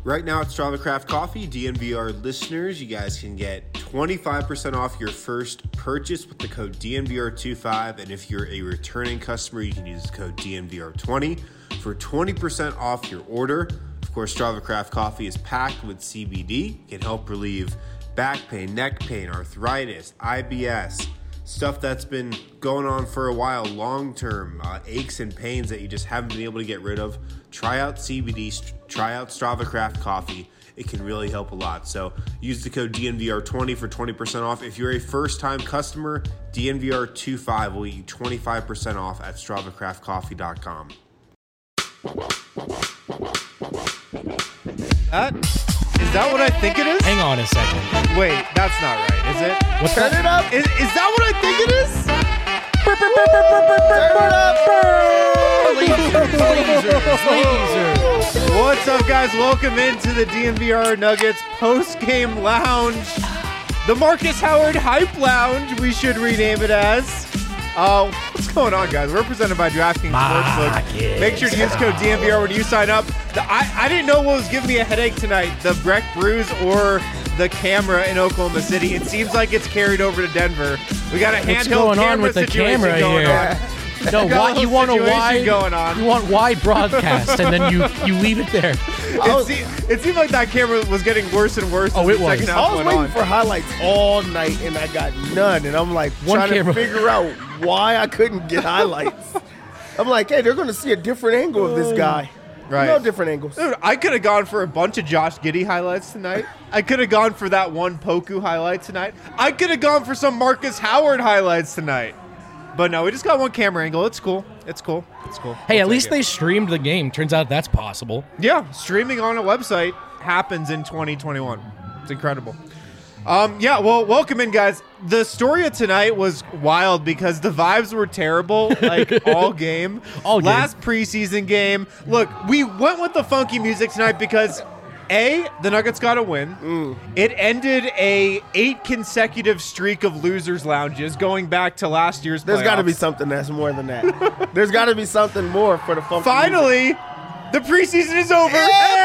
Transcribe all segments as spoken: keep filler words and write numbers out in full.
Right now at Strava Craft Coffee, D N V R listeners, you guys can get twenty-five percent off your first purchase with the code D N V R twenty-five. And if you're a returning customer, you can use the code D N V R twenty for twenty percent off your order. Of course, Strava Craft Coffee is packed with C B D. It can help relieve back pain, neck pain, arthritis, I B S, stuff that's been going on for a while, long-term, uh, aches and pains that you just haven't been able to get rid of. Try out C B D, try out Strava Craft Coffee. It can really help a lot. So use the code D N V R twenty for twenty percent off. If you're a first-time customer, D N V R twenty-five will get you twenty-five percent off at strava craft coffee dot com. That, is that what I think it is? Hang on a second. Wait, that's not right, is it? What's Turn that? it up. Is, is that what I think it is? Lasers, lasers. What's up, guys? Welcome into the D N V R Nuggets post-game lounge. The Marcus Howard Hype Lounge, we should rename it as. Uh, what's going on, guys? We're presented by DraftKings Sportsbook. Make sure to use code D N V R when you sign up. The, I, I didn't know what was giving me a headache tonight, the Breck Brews or the camera in Oklahoma City. It seems like it's carried over to Denver. We got a What's handheld going camera on with the situation camera going here? on. No, Got a why, little you want a situation wide going on. You want wide broadcast, and then you you leave it there. It, se- it seemed like that camera was getting worse and worse. Oh, as it the was. second half I was went waiting on. for highlights all night, and I got none. And I'm like One trying camera. to figure out why I couldn't get highlights. I'm like, hey, they're going to see a different angle of this guy. Right. No different angles. Dude, I could have gone for a bunch of Josh Giddey highlights tonight. I could have gone for that one Poku highlight tonight. I could have gone for some Marcus Howard highlights tonight. But no, we just got one camera angle. It's cool. It's cool. It's cool. Hey, We'll at take least it. they streamed the game. Turns out that's possible. Yeah, streaming on a website happens in twenty twenty-one. It's incredible. Um, yeah, well, welcome in, guys. The story of tonight was wild because the vibes were terrible, like all game. All game. Last preseason game. Look, we went with the funky music tonight because A, the Nuggets got a win. Mm. It ended a eight consecutive streak of losers lounges going back to last year's There's got to be playoffs. something that's more than that. There's got to be something more for the funky Finally, the preseason is over.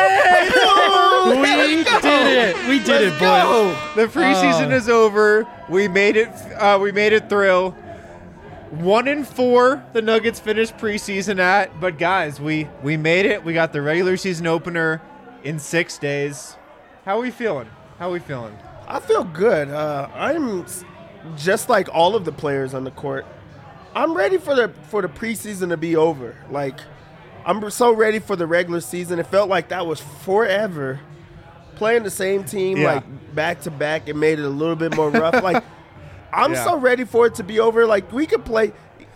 We did it. We did it, boys. The preseason Uh. is over. We made it. Uh, we made it through. One and four, the Nuggets finished preseason at. But guys, we we made it. We got the regular season opener in six days. How are we feeling? How are we feeling? I feel good. Uh, I'm s- just like all of the players on the court. I'm ready for the for the preseason to be over. Like, I'm so ready for the regular season. It felt like that was forever. Playing the same team Yeah. like back to back, it made it a little bit more rough. Like, I'm Yeah. so ready for it to be over. Like, we could play,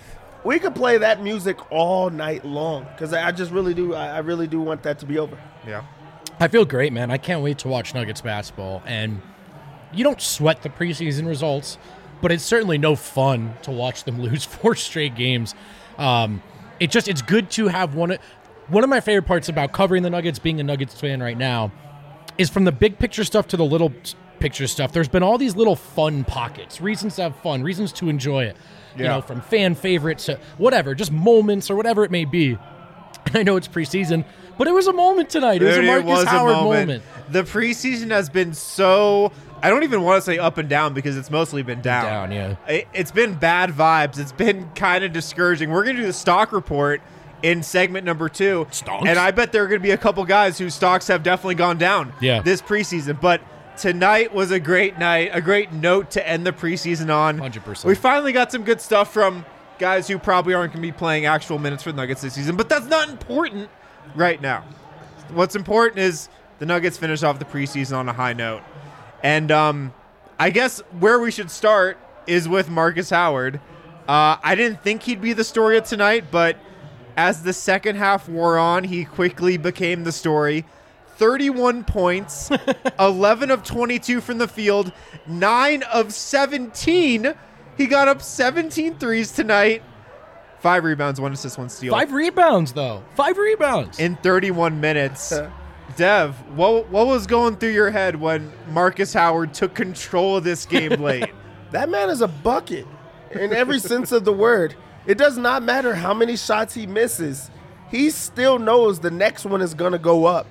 we could play that music all night long because I I just really do. I I really do want that to be over. Yeah. I feel great, man. I can't wait to watch Nuggets basketball. And you don't sweat the preseason results, but it's certainly no fun to watch them lose four straight games. Um, it just it's good to have one. One of my favorite parts about covering the Nuggets, being a Nuggets fan right now, is from the big picture stuff to the little picture stuff. There's been all these little fun pockets, reasons to have fun, reasons to enjoy it. You Yeah. know, from fan favorites to whatever, just moments or whatever it may be. And I know it's preseason, but it was a moment tonight. It was Dude, a Marcus Howard moment. The preseason has been so. I don't even want to say up and down because it's mostly been down. Down, yeah. It, it's been bad vibes. It's been kind of discouraging. We're going to do the stock report in segment number two. Stonks. And I bet there are going to be a couple guys whose stocks have definitely gone down Yeah. this preseason. But tonight was a great night, a great note to end the preseason on. one hundred percent. We finally got some good stuff from guys who probably aren't going to be playing actual minutes for the Nuggets this season. But that's not important right now. What's important is the Nuggets finish off the preseason on a high note. And um, I guess where we should start is with Marcus Howard. Uh, I didn't think he'd be the story of tonight, but as the second half wore on, he quickly became the story. thirty-one points, eleven of twenty-two from the field, nine of seventeen. He got up seventeen threes tonight. Five rebounds, one assist, one steal. Five rebounds, though. Five rebounds. In thirty-one minutes. Dev, what what was going through your head when Marcus Howard took control of this game late? That man is a bucket in every sense of the word. It does not matter how many shots he misses. He still knows the next one is going to go up.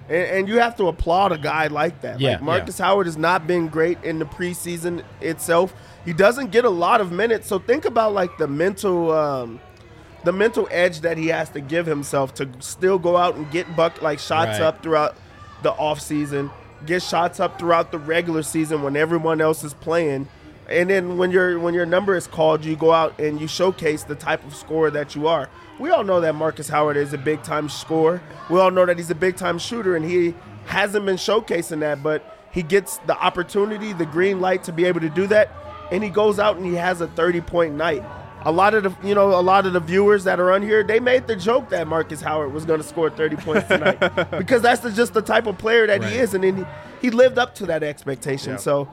And, and you have to applaud a guy like that. Yeah, like Marcus yeah. Howard has not been great in the preseason itself. He doesn't get a lot of minutes. So think about like the mental um, the mental edge that he has to give himself to still go out and get buck like shots Right. up throughout the offseason, get shots up throughout the regular season when everyone else is playing. And then when your when your number is called, you go out and you showcase the type of scorer that you are. We all know that Marcus Howard is a big-time scorer. We all know that he's a big-time shooter, and he hasn't been showcasing that, but he gets the opportunity, the green light to be able to do that, and he goes out and he has a thirty-point night. A lot of the, you know, a lot of the viewers that are on here, they made the joke that Marcus Howard was going to score thirty points tonight because that's the, just the type of player that Right. he is, and then he, he lived up to that expectation. Yeah. So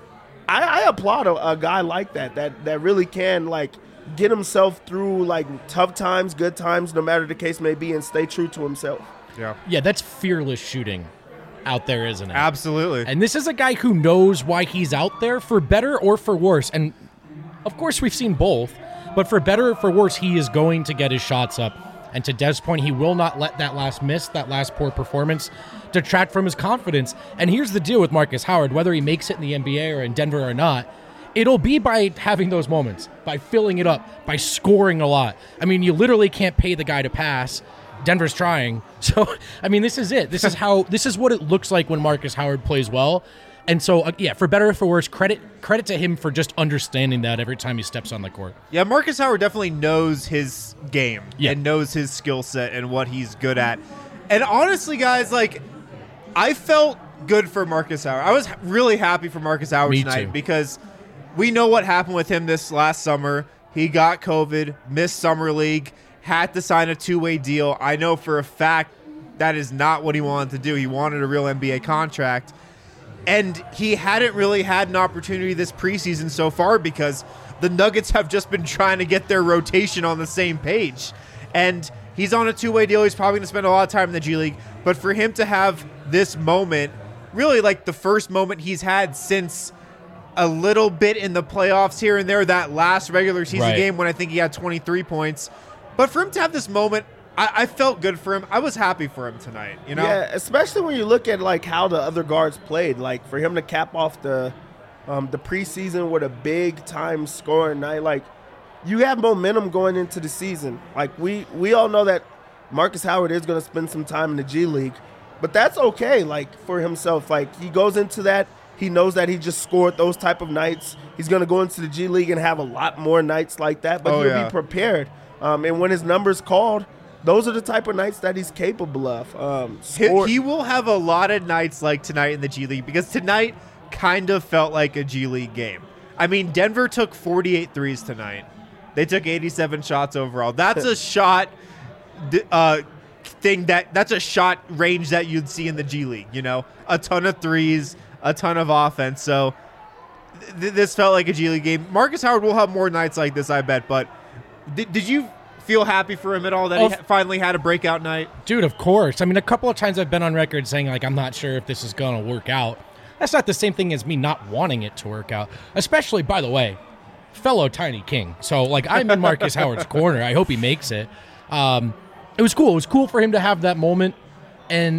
I, I applaud a, a guy like that, that that really can like get himself through like tough times, good times, no matter the case may be, and stay true to himself. Yeah. Yeah, that's fearless shooting out there, isn't it? Absolutely. And this is a guy who knows why he's out there, for better or for worse. And of course, we've seen both. But for better or for worse, he is going to get his shots up. And to Dev's point, he will not let that last miss, that last poor performance, detract from his confidence. And here's the deal with Marcus Howard, whether he makes it in the N B A or in Denver or not, it'll be by having those moments, by filling it up, by scoring a lot. I mean, you literally can't pay the guy to pass. Denver's trying. So, I mean, this is it. This is how, this is what it looks like when Marcus Howard plays well. And so, uh, yeah, for better or for worse, credit credit to him for just understanding that every time he steps on the court. Yeah, Marcus Howard definitely knows his game Yeah. and knows his skill set and what he's good at. And honestly, guys, like, I felt good for Marcus Howard. I was really happy for Marcus Howard Me tonight too. because we know what happened with him this last summer. He got COVID, missed Summer League, had to sign a two-way deal. I know for a fact that is not what he wanted to do. He wanted a real N B A contract. And he hadn't really had an opportunity this preseason so far because the Nuggets have just been trying to get their rotation on the same page. And he's on a two-way deal. He's probably going to spend a lot of time in the G League. But for him to have this moment, really like the first moment he's had since a little bit in the playoffs here and there, that last regular season Right. game when I think he had twenty-three points. But for him to have this moment, I, I felt good for him. I was happy for him tonight. You know? Yeah, especially when you look at like how the other guards played. Like for him to cap off the um, the preseason with a big time scoring night, like you have momentum going into the season. Like we we all know that Marcus Howard is going to spend some time in the G League, but that's okay. Like for himself, like he goes into that. He knows that he just scored those type of nights. He's going to go into the G League and have a lot more nights like that, but Oh, he'll yeah. be prepared. Um, and when his number's called, those are the type of nights that he's capable of. Um, He, score- he will have a lot of nights like tonight in the G League because tonight kind of felt like a G League game. I mean, Denver took forty-eight threes tonight. They took eighty-seven shots overall. That's a shot d- uh, thing that that's a shot range that you'd see in the G League, you know? A ton of threes, a ton of offense. So th- this felt like a G League game. Marcus Howard will have more nights like this, I bet, but did, did you feel happy for him at all that Oh, he ha- finally had a breakout night? Dude, of course. I mean, a couple of times I've been on record saying, like, I'm not sure if this is going to work out. That's not the same thing as me not wanting it to work out. Especially, by the way, fellow Tiny King. So, like, I'm in Marcus Howard's corner. I hope he makes it. Um, it was cool. It was cool for him to have that moment. And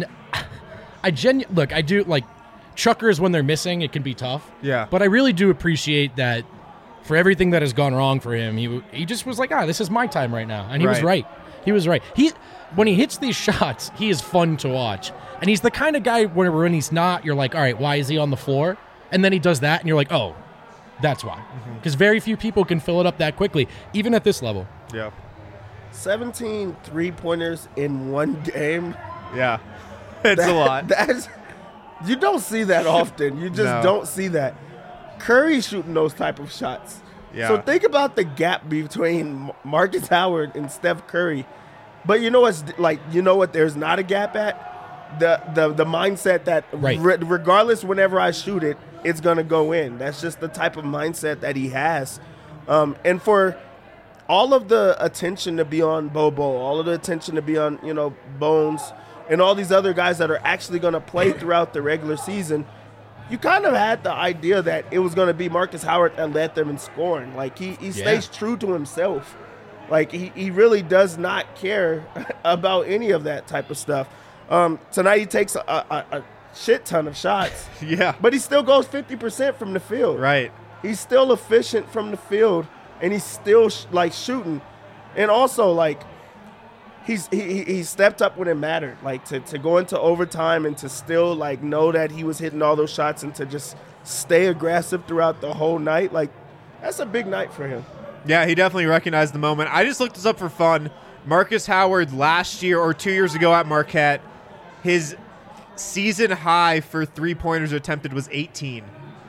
I genu- look, I do, like, chuckers when they're missing, it can be tough. Yeah. But I really do appreciate that for everything that has gone wrong for him. He he just was like, ah, this is my time right now. And he was Right. right. He was right. He when he hits these shots, he is fun to watch. And he's the kind of guy where when he's not, you're like, all right, why is he on the floor? And then he does that, and you're like, oh, that's why. Because very few people can fill it up that quickly, even at this level. Yeah. seventeen three-pointers in one game. Yeah. It's a lot. That's you don't see that often. You just No. don't see that. Curry shooting those type of shots. Yeah. So think about the gap between Marcus Howard and Steph Curry. But you know what's like? You know what? There's not a gap at the the the mindset that Right. re- regardless, whenever I shoot it, it's gonna go in. That's just the type of mindset that he has. Um, and for all of the attention to be on Bobo, all of the attention to be on, you know, Bones, and all these other guys that are actually going to play throughout the regular season, you kind of had the idea that it was going to be Marcus Howard that led them in scoring. Like, he, he stays true to himself. Like, he, he really does not care about any of that type of stuff. Um, tonight he takes a, a, a shit ton of shots, Yeah. but he still goes fifty percent from the field. Right. He's still efficient from the field, and he's still sh- like shooting, and also like he's he he he stepped up when it mattered, like to to go into overtime and to still like know that he was hitting all those shots and to just stay aggressive throughout the whole night. Like that's a big night for him. Yeah, he definitely recognized the moment. I just looked this up for fun. Marcus Howard last year or two years ago at Marquette, his season high for three-pointers attempted was eighteen.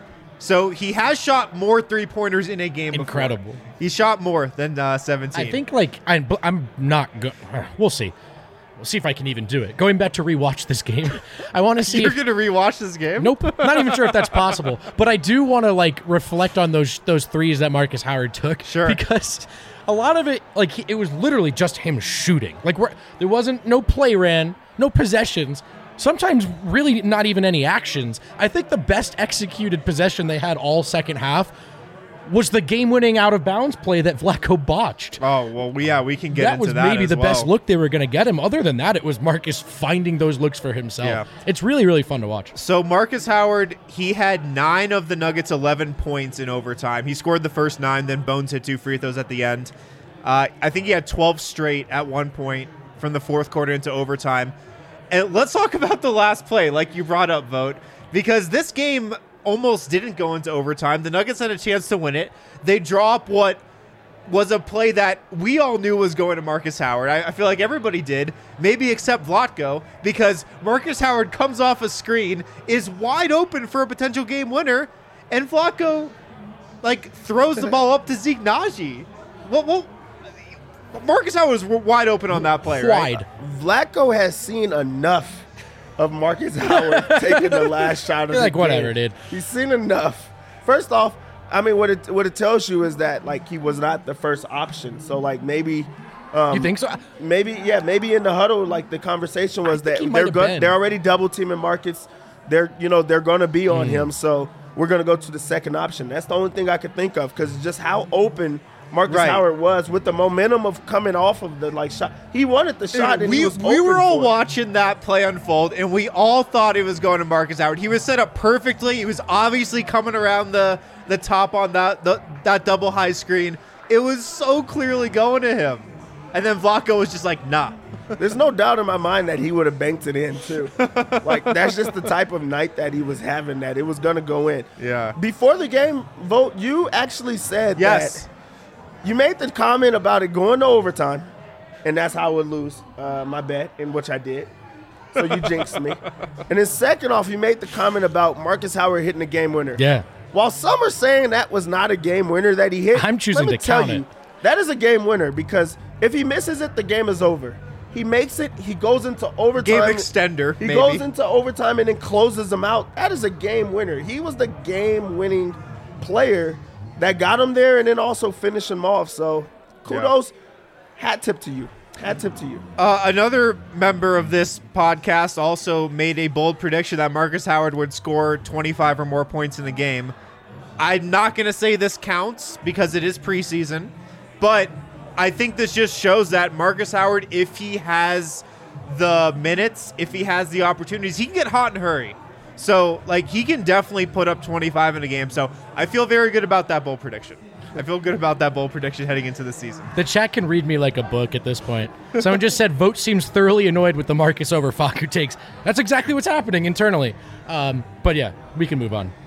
So he has shot more three-pointers in a game before. Incredible. He shot more than uh, seventeen. I think like I'm, I'm not good. We'll see. We'll see if I can even do it. Going back to rewatch this game, I want to see. You're if, going to rewatch this game? Nope, not even sure if that's possible. But I do want to like reflect on those those threes that Marcus Howard took. Sure. Because a lot of it, like he, it was literally just him shooting. Like we're, there wasn't no play ran, no possessions. Sometimes really not even any actions. I think the best executed possession they had all second half was the game-winning out-of-bounds play that Vlatko botched. Oh, well, yeah, we can get that into was that maybe as the well. best look they were going to get him. Other than that, it was Marcus finding those looks for himself. Yeah. It's really, really fun to watch. So Marcus Howard, he had nine of the Nuggets' eleven points in overtime. He scored the first nine, then Bones hit two free throws at the end. Uh, I think he had twelve straight at one point from the fourth quarter into overtime. And let's talk about the last play, like you brought up, Vote, because this game almost didn't go into overtime. The Nuggets had a chance to win it. They draw up what was a play that we all knew was going to Marcus Howard. I, I feel like everybody did, maybe except Vlatko, because Marcus Howard comes off a screen, is wide open for a potential game winner, and Vlatko like throws the ball up to Zeke Naji. Well, well, Marcus Howard was wide open on that play, right? Wide. Vlatko has seen enough of Marcus Howard taking the last shot of You're the like, game. whatever, dude. He's seen enough. First off, I mean, what it what it tells you is that like he was not the first option. So like maybe, um, You think so? maybe yeah, maybe in the huddle, like the conversation was that he might they're have go- been. they're already double teaming Marcus. They're you know they're going to be Mm. on him. So we're going to go to the second option. That's the only thing I could think of because just how open Marcus Right. Howard was with the momentum of coming off of the like shot. He wanted the shot, and we he was we were open all for it. watching that play unfold, and we all thought it was going to Marcus Howard. He was set up perfectly. He was obviously coming around the, the top on that the, that double high screen. It was so clearly going to him. And then Vlatko was just like, nah. There's no doubt in my mind that he would have banked it in too. Like that's just the type of night that he was having. That it was gonna go in. Yeah. Before the game, Vote, you actually said Yes. that you made the comment about it going to overtime, and that's how I would lose uh, my bet, in which I did. So you jinxed me. And then second off, you made the comment about Marcus Howard hitting the game winner. Yeah. While some are saying that was not a game winner that he hit, I'm choosing let me to tell count you, it. that is a game winner because if he misses it, the game is over. He makes it, he goes into overtime. Game extender, He maybe. goes into overtime and then closes them out. That is a game winner. He was the game-winning player that got him there and then also finished him off. So kudos, hat tip to you. Hat tip to you. Uh, another member of this podcast also made a bold prediction that Marcus Howard would score twenty-five or more points in the game. I'm not going to say this counts because it is preseason, but I think this just shows that Marcus Howard, if he has the minutes, if he has the opportunities, he can get hot and hurry. So, like, he can definitely put up twenty-five in a game. So, I feel very good about that bold prediction. I feel good about that bold prediction heading into the season. The chat can read me like a book at this point. Someone just said, Vote seems thoroughly annoyed with the Marcus over Facu takes. That's exactly what's happening internally. Um, but yeah, we can move on.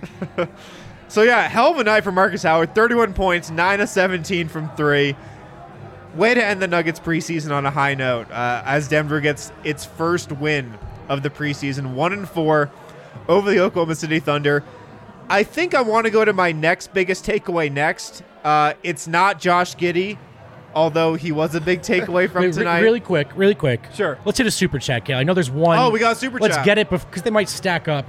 So, yeah, hell of a night for Marcus Howard. thirty-one points, nine of seventeen from three. Way to end the Nuggets preseason on a high note uh, as Denver gets its first win of the preseason, one and four over the Oklahoma City Thunder. I think I want to go to my next biggest takeaway next. Uh, it's not Josh Giddey, although he was a big takeaway from Wait, re- tonight. really quick, really quick. Sure. Let's hit a super chat, Kale. I know there's one. Oh, we got a super Let's chat. get it because they might stack up.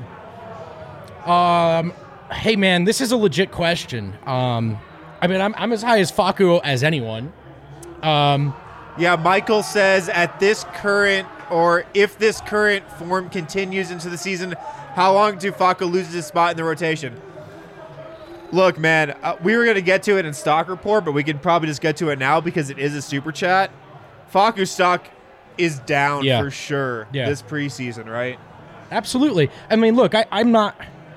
Um, hey man, this is a legit question. Um, I mean, I'm I'm as high as Facu as anyone. Um, Yeah, Michael says at this current, or if this current form continues into the season, how long do Facu lose his spot in the rotation? Look, man, uh, we were going to get to it in stock report, but we could probably just get to it now because it is a super chat. Facu's stock is down Yeah. for sure Yeah. this preseason, right? Absolutely. I mean, look, I, I'm not,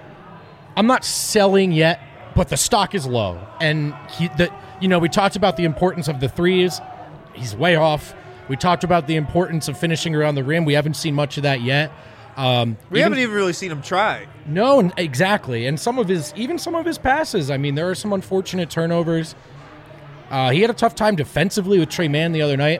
I'm not selling yet, but the stock is low, and he, the, you know, we talked about the importance of the threes. He's way off. We talked about the importance of finishing around the rim. We haven't seen much of that yet. Um, We haven't even really seen him try. No, n- exactly. And some of his, even some of his passes. I mean, there are some unfortunate turnovers. Uh, he had a tough time defensively with Trey Mann the other night.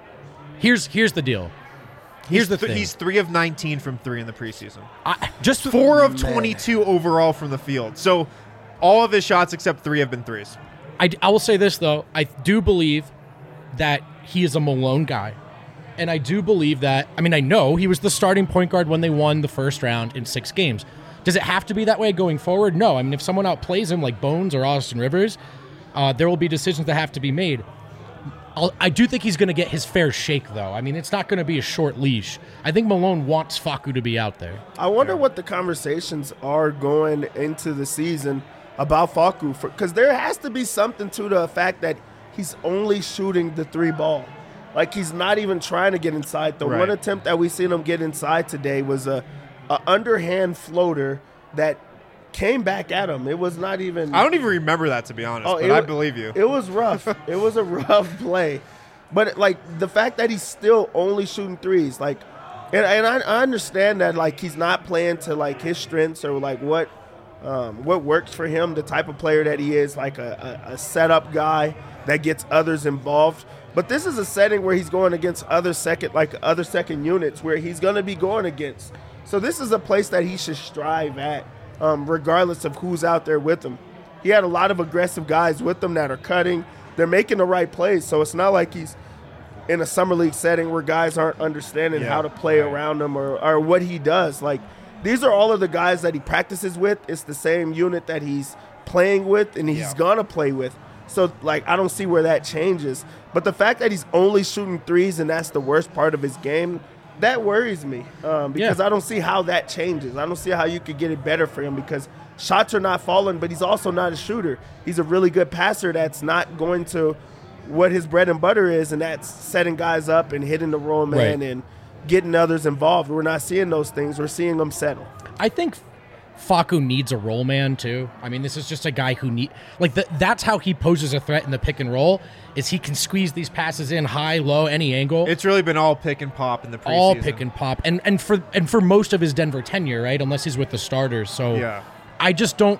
Here's here's the deal. Here's he's the th- thing. He's three of nineteen from three in the preseason. I, just Four of twenty-two overall from the field. So all of his shots except three have been threes. I, I will say this, though. I do believe that he is a Malone guy. And I do believe that, I mean, I know he was the starting point guard when they won the first round in six games. Does it have to be that way going forward? No. I mean, if someone outplays him like Bones or Austin Rivers, uh, there will be decisions that have to be made. I'll, I do think he's going to get his fair shake, though. I mean, it's not going to be a short leash. I think Malone wants Facu to be out there. I wonder what the conversations are going into the season about Facu, because there has to be something to the fact that he's only shooting the three ball. Like, he's not even trying to get inside. The Right. one attempt that we seen him get inside today was a, a underhand floater that came back at him. It was not even. I don't even remember that, to be honest, Oh, but it I wa- believe you. It was rough. It was a rough play. But, like, the fact that he's still only shooting threes, like, and, and I, I understand that, like, he's not playing to, like, his strengths or, like, what um, what works for him, the type of player that he is, like a, a, a setup guy that gets others involved. But this is a setting where he's going against other second, like, other second units where he's going to be going against. So this is a place that he should strive at, um, regardless of who's out there with him. He had a lot of aggressive guys with him that are cutting. They're making the right plays, so it's not like he's in a summer league setting where guys aren't understanding Yeah, how to play right. around him or, or what he does. Like, these are all of the guys that he practices with. It's the same unit that he's playing with and he's Yeah. going to play with. So, like, I don't see where that changes. But the fact that he's only shooting threes and that's the worst part of his game, that worries me um, because Yeah. I don't see how that changes. I don't see how you could get it better for him because shots are not falling, but he's also not a shooter. He's a really good passer that's not going to what his bread and butter is, and that's setting guys up and hitting the roll man Right. and getting others involved. We're not seeing those things. We're seeing them settle. I think Facu needs a roll man too. I mean, this is just a guy who need like the, that's how he poses a threat in the pick and roll. Is he can squeeze these passes in high, low, any angle. It's really been all pick and pop in the preseason. all pick and pop, and and for and for most of his Denver tenure, right? Unless he's with the starters. So Yeah. I just don't.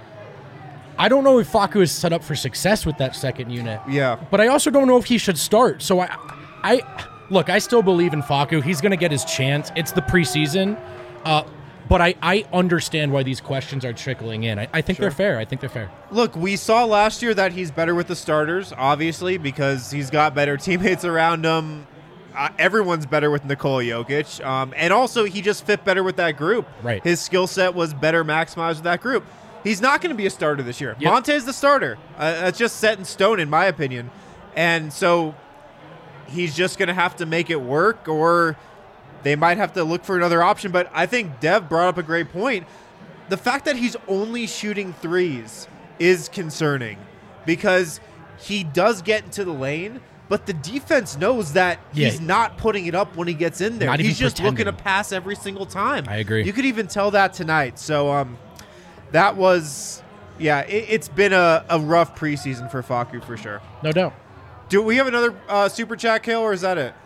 I don't know if Facu is set up for success with that second unit. Yeah. But I also don't know if he should start. So I, I look. I still believe in Facu. He's going to get his chance. It's the preseason. Uh, But I, I understand why these questions are trickling in. I, I think they're fair. I think they're fair. Look, we saw last year that he's better with the starters, obviously, because he's got better teammates around him. Uh, everyone's better with Nikola Jokic. Um, and also, he just fit better with that group. Right. His skill set was better maximized with that group. He's not going to be a starter this year. Yep. Monte's the starter. Uh, that's just set in stone, in my opinion. And so he's just going to have to make it work, or they might have to look for another option. But I think Dev brought up a great point. The fact that he's only shooting threes is concerning because he does get into the lane, but the defense knows that Yeah. he's not putting it up when he gets in there. Not even He's just pretending. looking to pass every single time. I agree. You could even tell that tonight. So um, that was, yeah, it, it's been a, a rough preseason for Facu for sure. No doubt. Do we have another uh, super chat, Kale, or is that it?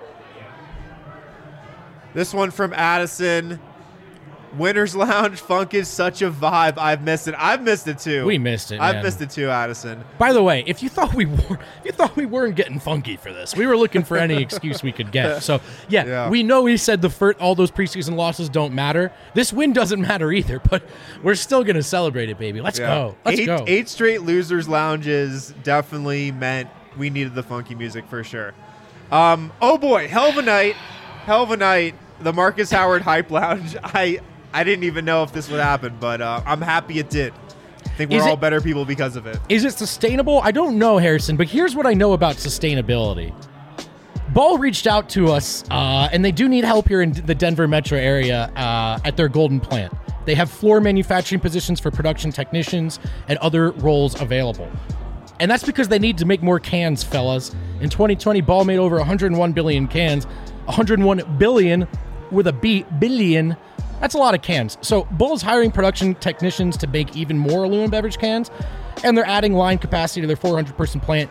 This one from Addison. Winter's Lounge funk is such a vibe. I've missed it. I've missed it too. We missed it, I've man. missed it too, Addison. By the way, if you thought we were, if you thought we weren't getting funky for this, we were looking for any excuse we could get. So yeah, Yeah. we know he said the first, all those preseason losses don't matter. This win doesn't matter either, but we're still gonna celebrate it, baby. Let's go. Let's eight, go. Eight straight losers lounges definitely meant we needed the funky music for sure. Um, oh boy, hell of a night, hell of a night. The Marcus Howard Hype Lounge. I I didn't even know if this would happen, but uh, I'm happy it did. I think we're Is all it- better people because of it. Is it sustainable? I don't know, Harrison, but here's what I know about sustainability. Ball reached out to us, uh, and they do need help here in the Denver metro area uh, at their Golden plant. They have floor manufacturing positions for production technicians and other roles available. And that's because they need to make more cans, fellas. In twenty twenty, Ball made over one hundred one billion cans. one hundred one billion with a B, billion. That's a lot of cans. So Bull is hiring production technicians to make even more aluminum beverage cans, and they're adding line capacity to their four hundred person plant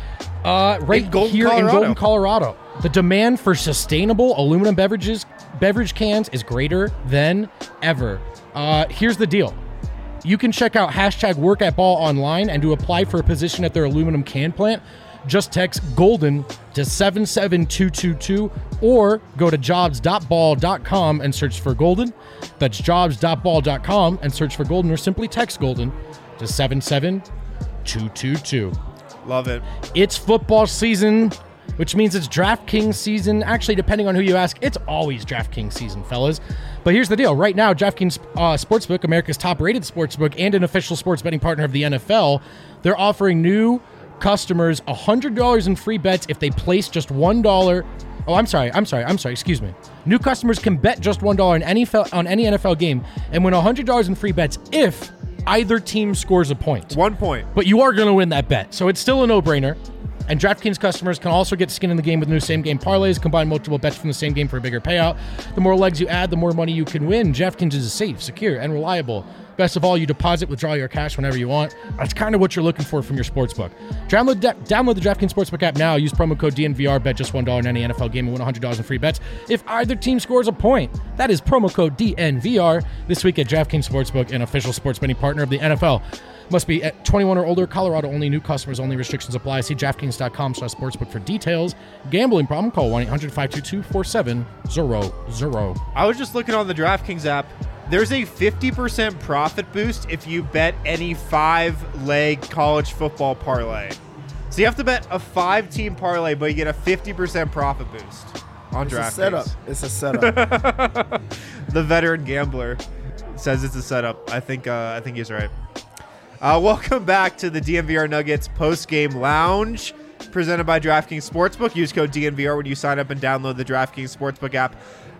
uh, right In Golden, here Colorado. in Golden, Colorado. The demand for sustainable aluminum beverages, beverage cans is greater than ever. Uh, here's the deal. You can check out hashtag work at Ball online and to apply for a position at their aluminum can plant. Just text GOLDEN to seven seven two two two or go to jobs dot ball dot com and search for Golden. That's jobs dot ball dot com and search for Golden, or simply text GOLDEN to seven seven two two two. Love it. It's football season, which means it's DraftKings season. Actually, depending on who you ask, it's always DraftKings season, fellas. But here's the deal. Right now, DraftKings uh, Sportsbook, America's top-rated sportsbook and an official sports betting partner of the N F L, they're offering new customers one hundred dollars in free bets if they place just one dollar. Oh, I'm sorry. I'm sorry. I'm sorry. Excuse me. New customers can bet just one dollar on any, on any N F L game and win one hundred dollars in free bets if either team scores a point. One point. But you are going to win that bet. So it's still a no-brainer. And DraftKings customers can also get skin in the game with new same-game parlays, combine multiple bets from the same game for a bigger payout. The more legs you add, the more money you can win. DraftKings is safe, secure, and reliable. Best of all, you deposit, withdraw your cash whenever you want. That's kind of what you're looking for from your sportsbook. Download, de- download the DraftKings Sportsbook app now. Use promo code D N V R. Bet just one dollar in any N F L game and win one hundred dollars in free bets if either team scores a point. That is promo code D N V R this week at DraftKings Sportsbook, an official sports betting partner of the N F L. Must be at twenty-one or older. Colorado only. New customers only. Restrictions apply. See DraftKings dot com slash sportsbook for details. Gambling problem? Call one eight hundred five two two four seven zero zero. I was just looking on the DraftKings app. There's a fifty percent profit boost if you bet any five-leg college football parlay. So you have to bet a five-team parlay, but you get a fifty percent profit boost on It's DraftKings. a setup. It's a setup. The veteran gambler says it's a setup. I think uh, I think he's right. Uh, welcome back to the D N V R Nuggets post-game lounge presented by DraftKings Sportsbook. Use code D N V R when you sign up and download the DraftKings Sportsbook app.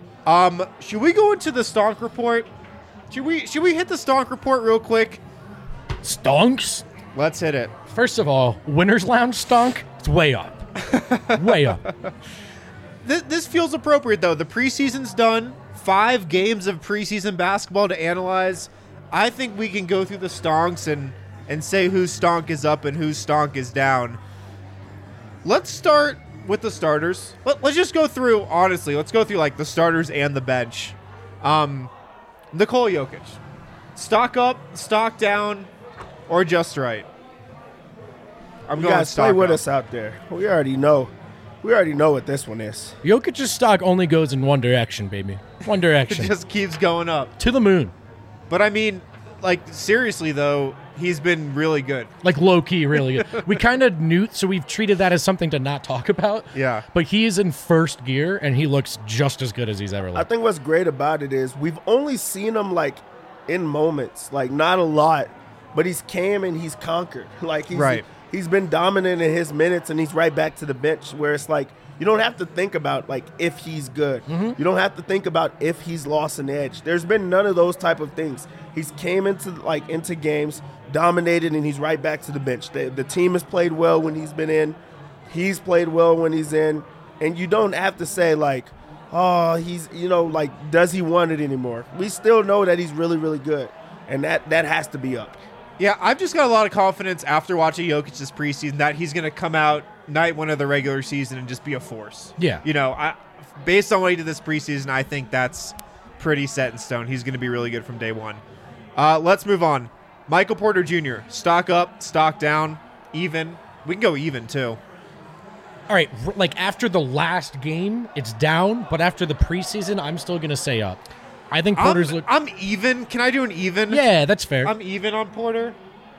Um, should we go into the Stonk report? Should we should we hit the Stonk report real quick? Stonks? Let's hit it. First of all, Winner's Lounge stunk. It's way up. way up. This, this feels appropriate, though. The preseason's done. Five games of preseason basketball to analyze. I think we can go through the stonks and, and say whose stonk is up and whose stonk is down. Let's start with the starters. Let, let's just go through, honestly, let's go through like the starters and the bench. Um, Nikola Jokic. Stock up, stock down, or just right? I'm You going guys stock play with up. us out there. We already know. We already know what this one is. Jokic's stock only goes in one direction, baby. One It direction. just keeps going up. to the moon. But I mean, like, seriously, though, he's been really good. Like low-key, really good. We kind of knew, so we've treated that as something to not talk about. Yeah. But he is in first gear, and he looks just as good as he's ever I looked. think what's great about it is we've only seen him like in moments, like not a lot, but he's came and he's conquered. Like he's Right. he's been dominant in his minutes, and he's right back to the bench where it's like you don't have to think about like if he's good. You don't have to think about if he's lost an edge. There's been none of those type of things. He's came into like into games, dominated, and he's right back to the bench. The, the team has played well when he's been in. He's played well when he's in, and you don't have to say like, oh, he's you know like does he want it anymore? We still know that he's really really good, and that that has to be up. Yeah, I've just got a lot of confidence after watching Jokic this preseason that he's going to come out night one of the regular season and just be a force. Yeah. You know, I, based on what he did this preseason, I think that's pretty set in stone. He's going to be really good from day one. Uh, let's move on. Michael Porter Junior Stock up, stock down, even. We can go even, too. All right, r- like after the last game, it's down, but after the preseason, I'm still going to say up. I think Porter's I'm, look. I'm even. Can I do an even? Yeah, that's fair. I'm even on Porter.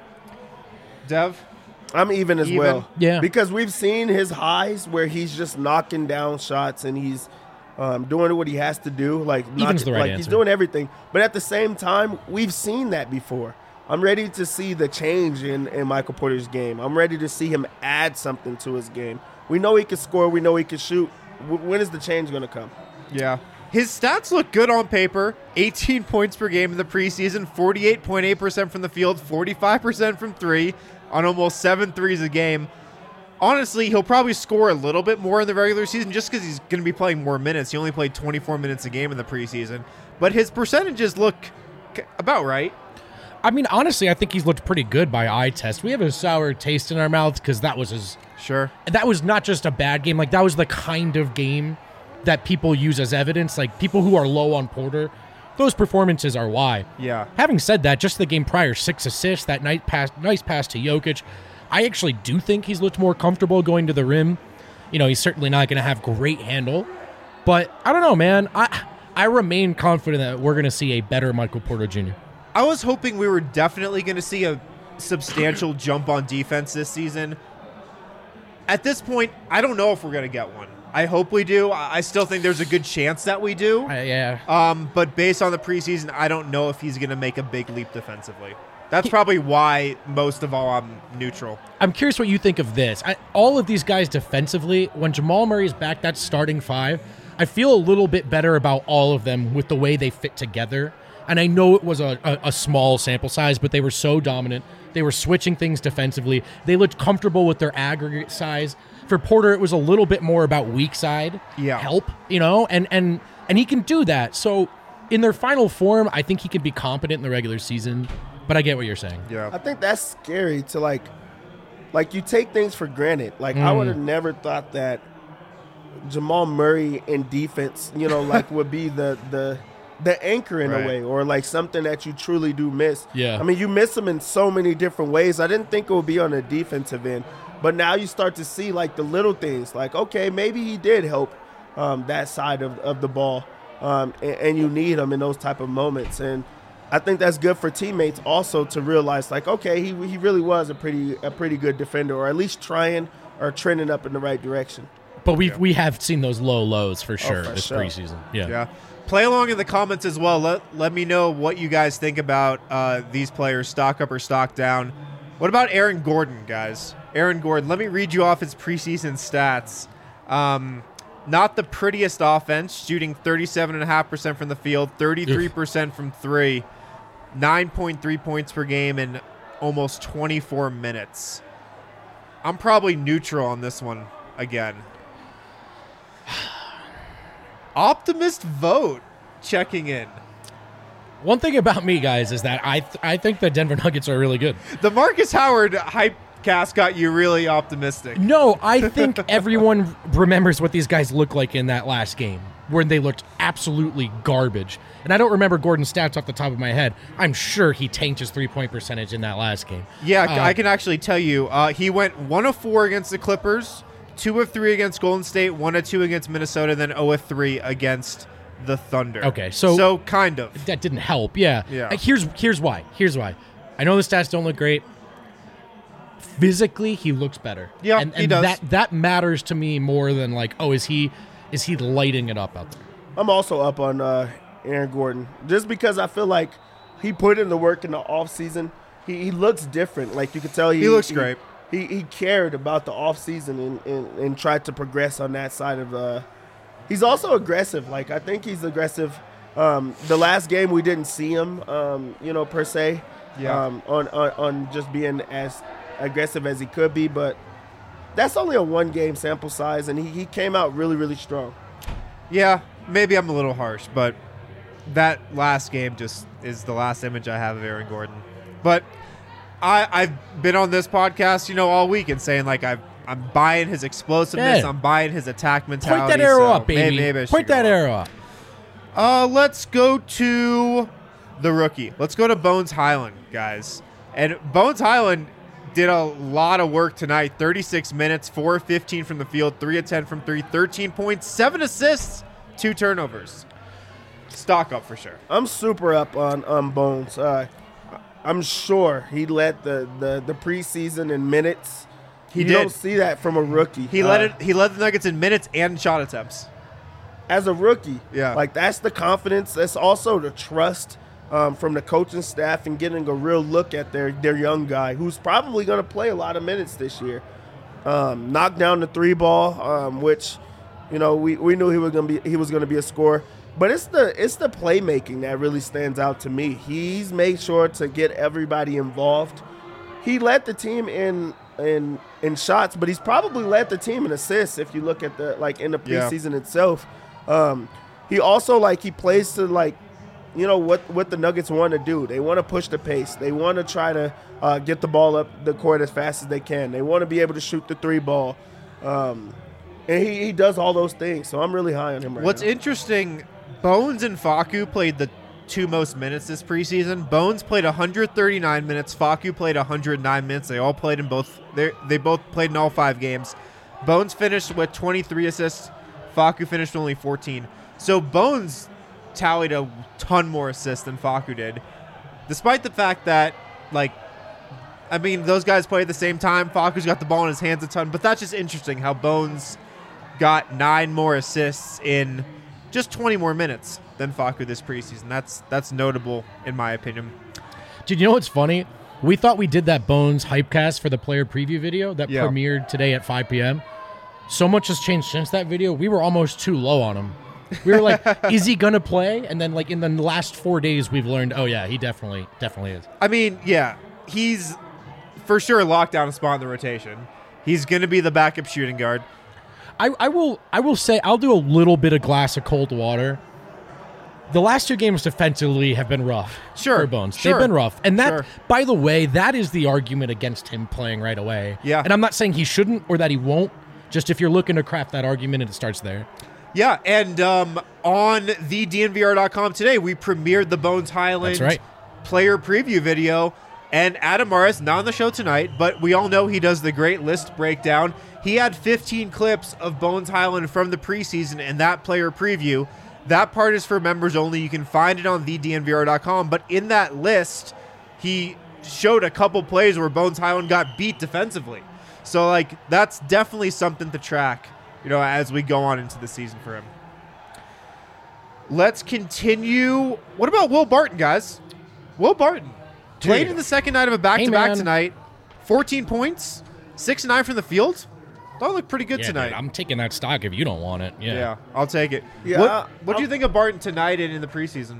Dev? I'm even as Even? well. Yeah. Because we've seen his highs where he's just knocking down shots and he's um, doing what he has to do. Like, Even's knock- the right like he's answer. doing everything. But at the same time, we've seen that before. I'm ready to see the change in, in Michael Porter's game. I'm ready to see him add something to his game. We know he can score. We know he can shoot. W- when is the change going to come? Yeah. His stats look good on paper. eighteen points per game in the preseason, forty-eight point eight percent from the field, forty-five percent from three on almost seven threes a game. honestly, he'll probably score a little bit more in the regular season just because he's going to be playing more minutes. He only played twenty-four minutes a game in the preseason, but his percentages look about right. I mean, honestly, I think he's looked pretty good by eye test. We have a sour taste in our mouths because that was his. Sure. That was not just a bad game. Like, that was the kind of game that people use as evidence. Like, people who are low on Porter, those performances are why. Yeah. Having said that, just the game prior, six assists, that nice pass, nice pass to Jokic. I actually do think he's looked more comfortable going to the rim. You know, he's certainly not going to have great handle. But I don't know, man. I I remain confident that we're going to see a better Michael Porter Junior I was hoping we were definitely going to see a substantial jump on defense this season. At this point, I don't know if we're going to get one. I hope we do. I still think there's a good chance that we do. Uh, yeah. Um, but based on the preseason, I don't know if he's going to make a big leap defensively. That's probably why most of all I'm neutral. I'm curious what you think of this. I, all of these guys defensively, when Jamal Murray's back, that starting five, I feel a little bit better about all of them with the way they fit together. And I know it was a, a, a small sample size, but they were so dominant. They were switching things defensively. They looked comfortable with their aggregate size. For Porter, it was a little bit more about weak side yeah. help, you know, and, and, and he can do that. So in their final form, I think he can be competent in the regular season, but I get what you're saying. Yeah, I think that's scary to, like, like you take things for granted. Like, mm. I would have never thought that Jamal Murray in defense, you know, like would be the the – the anchor in right. a way, or like something that you truly do miss. Yeah. I mean, you miss him in so many different ways. I didn't think it would be on the defensive end, but now you start to see like the little things, like, okay, maybe he did help um, that side of, of the ball, um, and, and you need him in those type of moments. And I think that's good for teammates also to realize, like, okay, he he really was a pretty a pretty good defender, or at least trying or trending up in the right direction. But we yeah. we have seen those low lows for sure oh, for this sure. preseason. Yeah. Yeah. Play along in the comments as well. Let let me know what you guys think about uh, these players, stock up or stock down. What about Aaron Gordon, guys? Aaron Gordon, let me read you off his preseason stats. Um, not the prettiest offense, shooting thirty-seven point five percent from the field, thirty-three percent from three, nine point three points per game in almost twenty-four minutes. I'm probably neutral on this one again. Optimist vote checking in. One thing about me, guys, is that I th- I think the Denver Nuggets are really good. The Marcus Howard hype cast got you really optimistic. No, I think everyone remembers what these guys look like in that last game, where they looked absolutely garbage. And I don't remember Gordon's stats off the top of my head. I'm sure he tanked his three-point percentage in that last game. Yeah, Uh, I can actually tell you. Uh, he went one of four against the Clippers, two of three against Golden State, one of two against Minnesota, then zero of three against the Thunder. Okay, so- so kind of. That didn't help. Yeah. Yeah. Uh, Here's here's why. Here's why. I know the stats don't look great. Physically, he looks better. Yeah, and, he and does. That that matters to me more than like, oh, is he is he lighting it up out there? I'm also up on uh, Aaron Gordon just because I feel like he put in the work in the offseason. He, he looks different. Like, you can tell he, He looks great. He, he cared about the offseason and, and, and tried to progress on that side of the – he's also aggressive. Like, I think he's aggressive. Um, the last game we didn't see him, um, you know, per se, Yeah. um, on, on, on just being as aggressive as he could be. But that's only a one-game sample size, and he, he came out really, really strong. Yeah, maybe I'm a little harsh, but that last game just is the last image I have of Aaron Gordon. But I, I've been on this podcast, you know, all week and saying, like, I've, I'm buying his explosiveness. Yeah. I'm buying his attack mentality. Point that arrow so up, baby. Maybe, maybe I should Point go that up. arrow up. Uh, let's go to the rookie. Let's go to Bones Highland, guys. And Bones Highland did a lot of work tonight. thirty-six minutes, four of fifteen from the field, three of ten from three, thirteen points, seven assists, two turnovers. Stock up for sure. I'm super up on um, Bones. Uh, I'm sure he led the, the, the preseason in minutes. He you did. don't see that from a rookie. He Uh, led it. He led the Nuggets in minutes and shot attempts. as a rookie. Yeah. Like, that's the confidence. That's also the trust um, from the coaching staff and getting a real look at their, their young guy who's probably going to play a lot of minutes this year. Um, knocked down the three ball, um, which, you know, we, we knew he was going to be he was going to be a scorer. But it's the it's the playmaking that really stands out to me. He's made sure to get everybody involved. He led the team in in in shots, but he's probably led the team in assists if you look at the like in the Yeah. preseason itself. Um, he also like he plays to like you know what what the Nuggets want to do. They want to push the pace. They want to try to uh, get the ball up the court as fast as they can. They want to be able to shoot the three ball, um, and he, he does all those things. So I'm really high on him right What's now. interesting, Bones and Facu played the two most minutes this preseason. Bones played one hundred thirty-nine minutes. Facu played one hundred nine minutes. They all played in both. They they both played in all five games. Bones finished with twenty-three assists. Facu finished with only fourteen. So Bones tallied a ton more assists than Facu did, despite the fact that, like, I mean, those guys played at the same time. Facu's got the ball in his hands a ton, but that's just interesting how Bones got nine more assists in just twenty more minutes than Facu this preseason. That's that's notable in my opinion. Dude, you know what's funny? We thought we did that Bones hypecast for the player preview video that Yeah. premiered today at five p.m. So much has changed since that video. We were almost too low on him. We were like, is he going to play? And then, like, in the last four days, we've learned, oh, yeah, he definitely, definitely is. I mean, yeah, he's for sure locked down a spot in the rotation. He's going to be the backup shooting guard. I, I will I will say, I'll do a little bit of glass of cold water. The last two games defensively have been rough Sure, for Bones. sure, They've been rough. And that, sure. by the way, that is the argument against him playing right away. Yeah. And I'm not saying he shouldn't or that he won't. Just if you're looking to craft that argument, it starts there. Yeah, and um, on the D N V R dot com today, we premiered the Bones Highland That's right. player preview video. And Adam Morris, not on the show tonight, but we all know he does the great list breakdown. He had fifteen clips of Bones Highland from the preseason and that player preview. That part is for members only. You can find it on the D N V R dot com. But in that list, he showed a couple plays where Bones Highland got beat defensively. So, like, that's definitely something to track, you know, as we go on into the season for him. Let's continue. What about Will Barton, guys? Will Barton played Dude. in the second night of a back-to-back man. tonight. fourteen points, six and nine from the field. That looked pretty good Yeah, tonight. dude, I'm taking that stock if you don't want it. Yeah. yeah, I'll take it. Yeah, What What do you I'll- think of Barton tonight and in the preseason?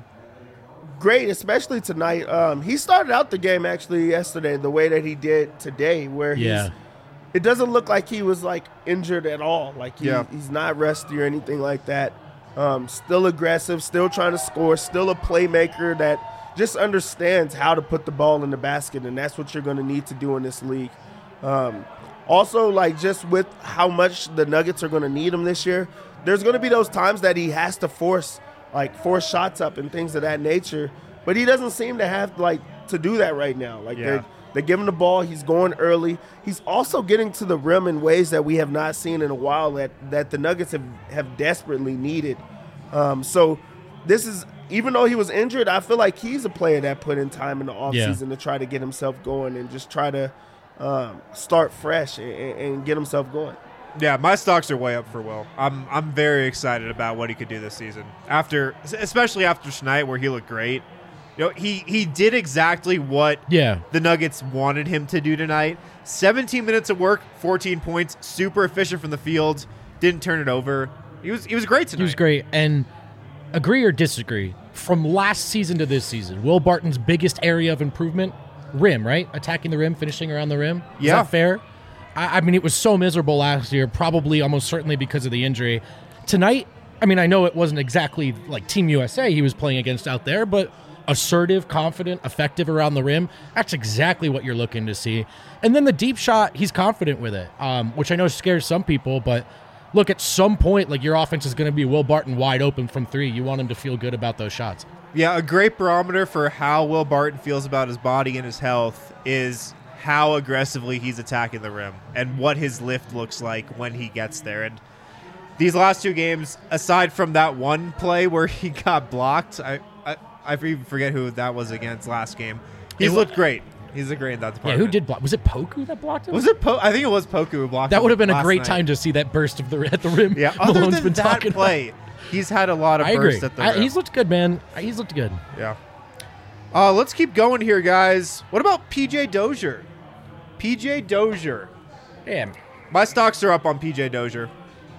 Great, especially tonight. Um, he started out the game actually yesterday the way that he did today, where Yeah. he's. It doesn't look like he was like injured at all. Like he, Yeah. he's not rusty or anything like that. Um, still aggressive, still trying to score, still a playmaker that just understands how to put the ball in the basket, and that's what you're going to need to do in this league. Um, also, like just with how much the Nuggets are going to need him this year, there's going to be those times that he has to force like force shots up and things of that nature, but he doesn't seem to have like to do that right now. Like Yeah. they're They give him the ball. He's going early. He's also getting to the rim in ways that we have not seen in a while that, that the Nuggets have, have desperately needed. Um, so this is, even though he was injured, I feel like he's a player that put in time in the offseason Yeah. to try to get himself going and just try to um, start fresh and, and get himself going. Yeah, my stocks are way up for Will. I'm I'm very excited about what he could do this season. After, especially after tonight, where he looked great. You know, he he did exactly what Yeah. the Nuggets wanted him to do tonight. seventeen minutes of work, fourteen points, super efficient from the field, didn't turn it over. He was he was great tonight. He was great. And agree or disagree, from last season to this season, Will Barton's biggest area of improvement, rim, right? Attacking the rim, finishing around the rim. Is Yeah. that fair? I, I mean, it was so miserable last year, probably almost certainly because of the injury. Tonight, I mean, I know it wasn't exactly like Team U S A he was playing against out there, but assertive, confident, effective around the rim. That's exactly what you're looking to see. And then the deep shot, he's confident with it, um, which I know scares some people, but look, at some point, like your offense is going to be Will Barton wide open from three. You want him to feel good about those shots. Yeah, a great barometer for how Will Barton feels about his body and his health is how aggressively he's attacking the rim and what his lift looks like when he gets there. And these last two games, aside from that one play where he got blocked, I I, I even forget who that was against last game. He's It wa- looked great. He's a great in that Yeah, department. who did block? Was it Poku that blocked him? Was it Po? I think it was Poku who blocked That him would have been a last great night. time to see that burst of the at the rim. Yeah, other Malone's than been that talking play, he's had a lot of about. I agree. bursts at the I, rim. he's looked good, man. He's looked good. Yeah. Uh, let's keep going here, guys. What about P J Dozier? P J Dozier. Damn. My stocks are up on P J Dozier.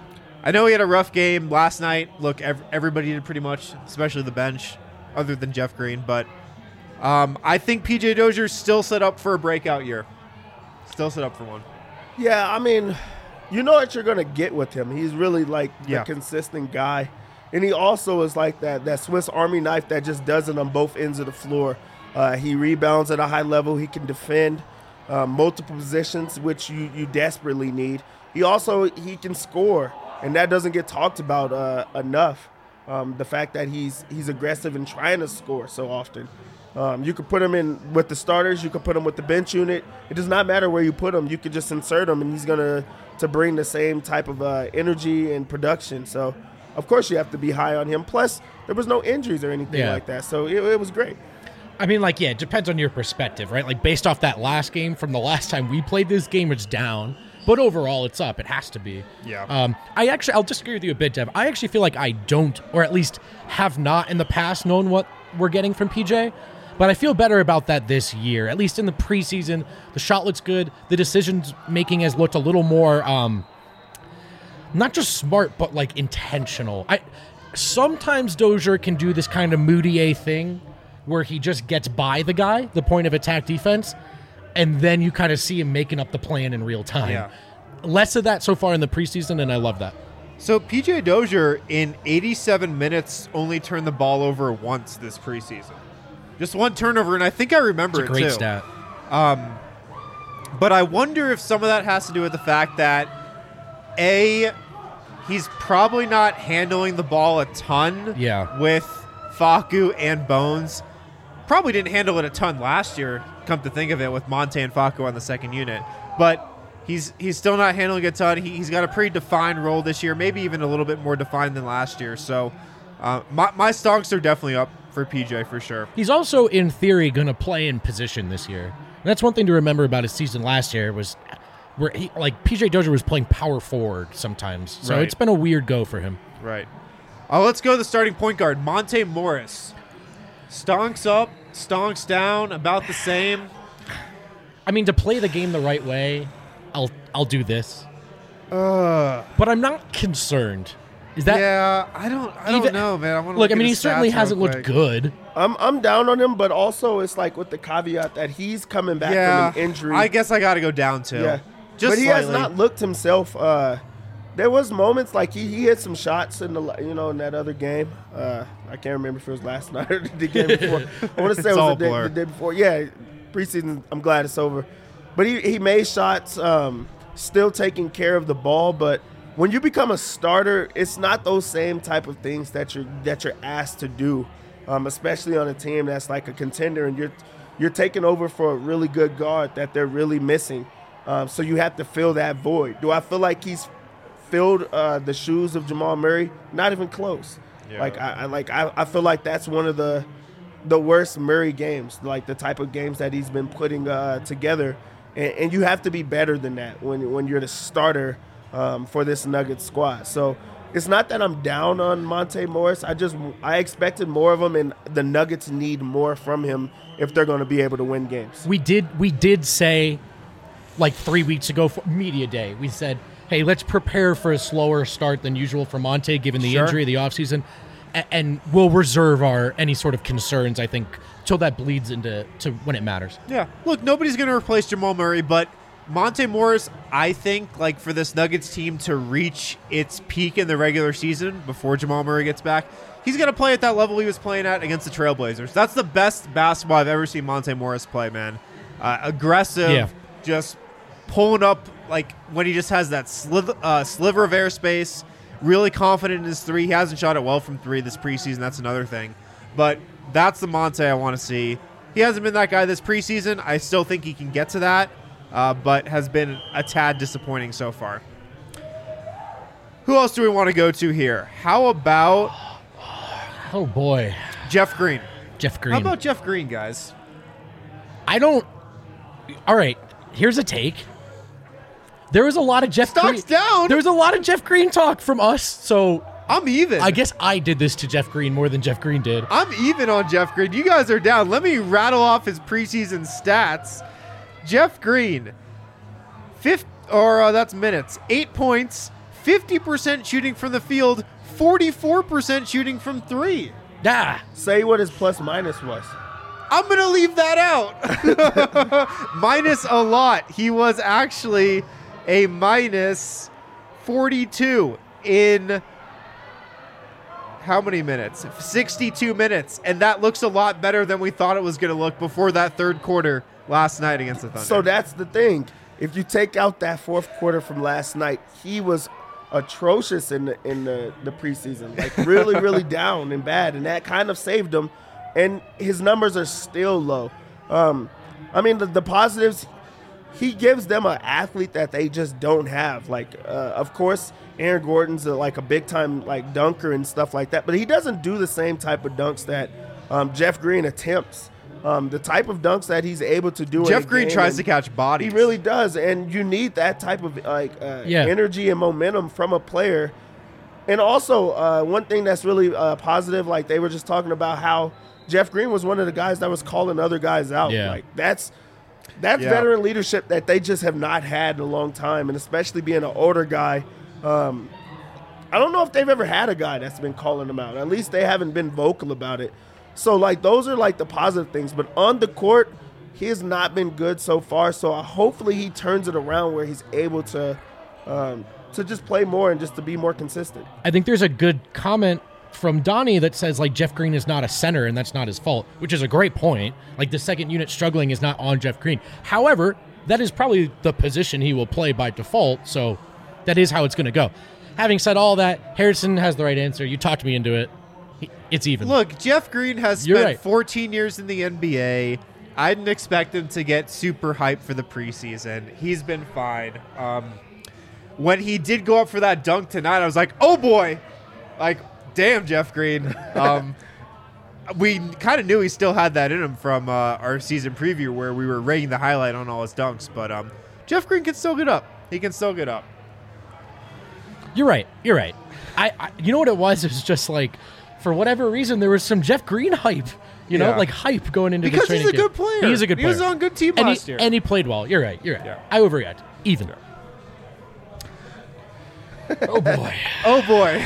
I know he had a rough game last night. Look, ev- everybody did pretty much, especially the bench, other than Jeff Green. But um, I think P J Dozier's still set up for a breakout year. Still set up for one. Yeah, I mean, you know what you're going to get with him. He's really like Yeah. the consistent guy. And he also is like that, that Swiss Army knife that just does it on both ends of the floor. Uh, he rebounds at a high level. He can defend uh, multiple positions, which you, you desperately need. He also he can score, and that doesn't get talked about uh, enough. Um, the fact that he's he's aggressive and trying to score so often. Um, you could put him in with the starters. You could put him with the bench unit. It does not matter where you put him. You could just insert him, and he's gonna to bring the same type of uh, energy and production. So, of course, you have to be high on him. Plus, there was no injuries or anything Yeah. like that, so it, it was great. I mean, like, yeah, it depends on your perspective, right? Like, based off that last game from the last time we played this game, it's down. But overall, it's up. It has to be. Yeah. Um, I actually, I'll disagree with you a bit, Dev. I actually feel like I don't, or at least have not in the past known what we're getting from P J. But I feel better about that this year. At least in the preseason, the shot looks good. The decisions making has looked a little more, um, not just smart, but like intentional. I sometimes Dozier can do this kind of Moutier thing where he just gets by the guy, the point of attack defense, and then you kind of see him making up the plan in real time. Yeah. Less of that so far in the preseason, and I love that. So P J Dozier in eighty-seven minutes only turned the ball over once this preseason. Just one turnover, and I think I remember It's a great it too. stat. Um, but I wonder if some of that has to do with the fact that, A, he's probably not handling the ball a ton Yeah. with Facu and Bones. Probably didn't handle it a ton last year, come to think of it, with Monte and Facu on the second unit. But he's he's still not handling a ton. He, he's got a pretty defined role this year, maybe even a little bit more defined than last year. So uh, my, my stonks are definitely up for P J for sure. He's also, in theory, going to play in position this year. And that's one thing to remember about his season last year was where he, like P J Dozier was playing power forward sometimes. So Right. it's been a weird go for him. Right. Uh, let's go to the starting point guard, Monte Morris. Stonks up, stonks down, about the same. I mean, to play the game the right way, I'll I'll do this. Uh, But I'm not concerned. Is that yeah, I don't I don't even- know, man. I want to look? I mean, he certainly hasn't looked good. I'm I'm down on him, but also it's like with the caveat that he's coming back Yeah, from an injury. I guess I got to go down too. Yeah, Just but he has slightly. not looked himself. Uh, there was moments like he, he hit some shots in the you know in that other game. Uh, I can't remember if it was last night or the game before. I want to say It's it all was the day, blur. the day before. Yeah, preseason. I'm glad it's over. But he, he made shots, um, still taking care of the ball. But when you become a starter, it's not those same type of things that you're that you're asked to do, um, especially on a team that's like a contender and you're you're taking over for a really good guard that they're really missing. Um, so you have to fill that void. Do I feel like he's filled uh, the shoes of Jamal Murray? Not even close. Yeah. Like I, I like I, I feel like that's one of the the worst Murray games, like the type of games that he's been putting uh, together. And, and you have to be better than that when when you're the starter um, for this Nuggets squad. So it's not that I'm down on Monte Morris. I just I expected more of him, and the Nuggets need more from him if they're going to be able to win games. We did we did say like three weeks ago for media day, we said, hey, let's prepare for a slower start than usual for Monte given the Sure. injury of the offseason. A- and we'll reserve our any sort of concerns, I think, till that bleeds into to when it matters. Yeah. Look, nobody's going to replace Jamal Murray, but Monte Morris, I think, like for this Nuggets team to reach its peak in the regular season before Jamal Murray gets back, he's going to play at that level he was playing at against the Trailblazers. That's the best basketball I've ever seen Monte Morris play, man. Uh, aggressive, Yeah. just pulling up like when he just has that sliv- uh, sliver of airspace, really confident in his three. He hasn't shot it well from three this preseason. That's another thing. But that's the Monte I want to see. He hasn't been that guy this preseason. I still think he can get to that, uh, but has been a tad disappointing so far. Who else do we want to go to here? How about Oh boy. Jeff Green? Jeff Green. How about Jeff Green, guys? I don't All right, here's a take. There was a lot of Jeff Stocks Green. down. There was a lot of Jeff Green talk from us, so I'm even. I guess I did this to Jeff Green more than Jeff Green did. I'm even on Jeff Green. You guys are down. Let me rattle off his preseason stats. Jeff Green, fifth, or uh, that's minutes. Eight points, fifty percent shooting from the field, forty-four percent shooting from three. Ah, Say what his plus minus was. I'm going to leave that out. Minus a lot. He was actually a minus forty-two in how many minutes? sixty-two minutes. And that looks a lot better than we thought it was going to look before that third quarter last night against the Thunder. So that's the thing. If you take out that fourth quarter from last night, he was atrocious in the in the, the preseason. Like really, really down and bad. And that kind of saved him. And his numbers are still low. Um, I mean, the, the positives, he gives them an athlete that they just don't have. Like, uh, of course, Aaron Gordon's a, like a big-time like dunker and stuff like that, but he doesn't do the same type of dunks that um, Jeff Green attempts. Um, the type of dunks that he's able to do. Jeff in a Green game, tries to catch bodies. He really does, and you need that type of like uh, Yeah. energy and momentum from a player. And also, uh, one thing that's really uh, positive, like they were just talking about how Jeff Green was one of the guys that was calling other guys out. Yeah. Like that's that's Yeah. veteran leadership that they just have not had in a long time, and especially being an older guy. Um, I don't know if they've ever had a guy that's been calling them out. At least they haven't been vocal about it. So like those are like the positive things. But on the court, he has not been good so far. So uh, hopefully he turns it around where he's able to um, to just play more and just to be more consistent. I think there's a good comment from Donnie that says like Jeff Green is not a center and that's not his fault, which is a great point. Like the second unit struggling is not on Jeff Green. However, that is probably the position he will play by default, so that is how it's going to go. Having said all that, Harrison has the right answer. You talked me into it. He- It's even. Look, Jeff Green has You're spent right. fourteen years in the N B A. I didn't expect him to get super hyped for the preseason. He's been fine. Um, when he did go up for that dunk tonight, I was like, oh boy. Like, damn, Jeff Green. Um, we kind of knew he still had that in him from uh, our season preview where we were rating the highlight on all his dunks. But um, Jeff Green can still get up. He can still get up. You're right. You're right. I, I you know what it was? It was just like, for whatever reason, there was some Jeff Green hype. You know, Yeah. like hype going into Because the training he's a camp. good player. He's a good He player. was on a good team and last he, year. And he played well. You're right. You're right. Yeah. I overreact. Even. Oh, boy. Oh, boy.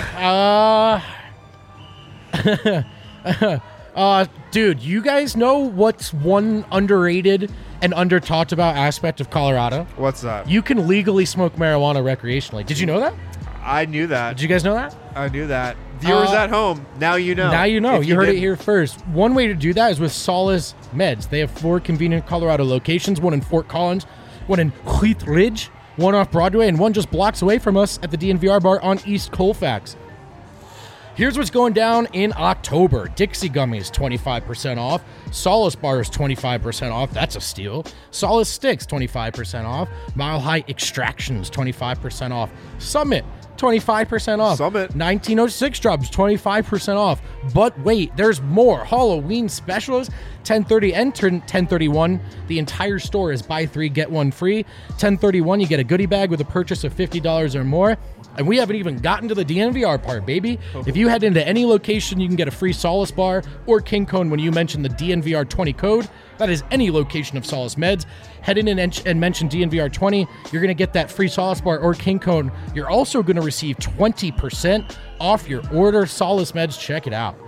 Uh, uh, dude, you guys know what's one underrated and under talked about aspect of Colorado? What's that? You can legally smoke marijuana recreationally. Did you know that? I knew that. Did you guys know that? I knew that. Viewers Uh, at home, now you know. Now you know. If You, heard it didn't. here first. One way to do that is with Solace Meds. They have four convenient Colorado locations, one in Fort Collins, one in Wheat Ridge, one off Broadway, and one just blocks away from us at the D N V R bar on East Colfax. Here's what's going down in October. Dixie Gummies, twenty-five percent off. Solace Bars, twenty-five percent off. That's a steal. Solace Sticks, twenty-five percent off. Mile High Extractions, twenty-five percent off. Summit, twenty-five percent off. Summit. nineteen oh six drops, twenty-five percent off. But wait, there's more. Halloween specials, ten thirty and ten thirty-one. The entire store is buy three, get one free. ten thirty-one, you get a goodie bag with a purchase of fifty dollars or more. And we haven't even gotten to the D N V R part, baby. If you head into any location, you can get a free Solace Bar or King Cone when you mention the D N V R twenty code. That is any location of Solace Meds. Head in and, en- and mention D N V R twenty. You're going to get that free Solace Bar or King Cone. You're also going to receive twenty percent off your order. Solace Meds, check it out.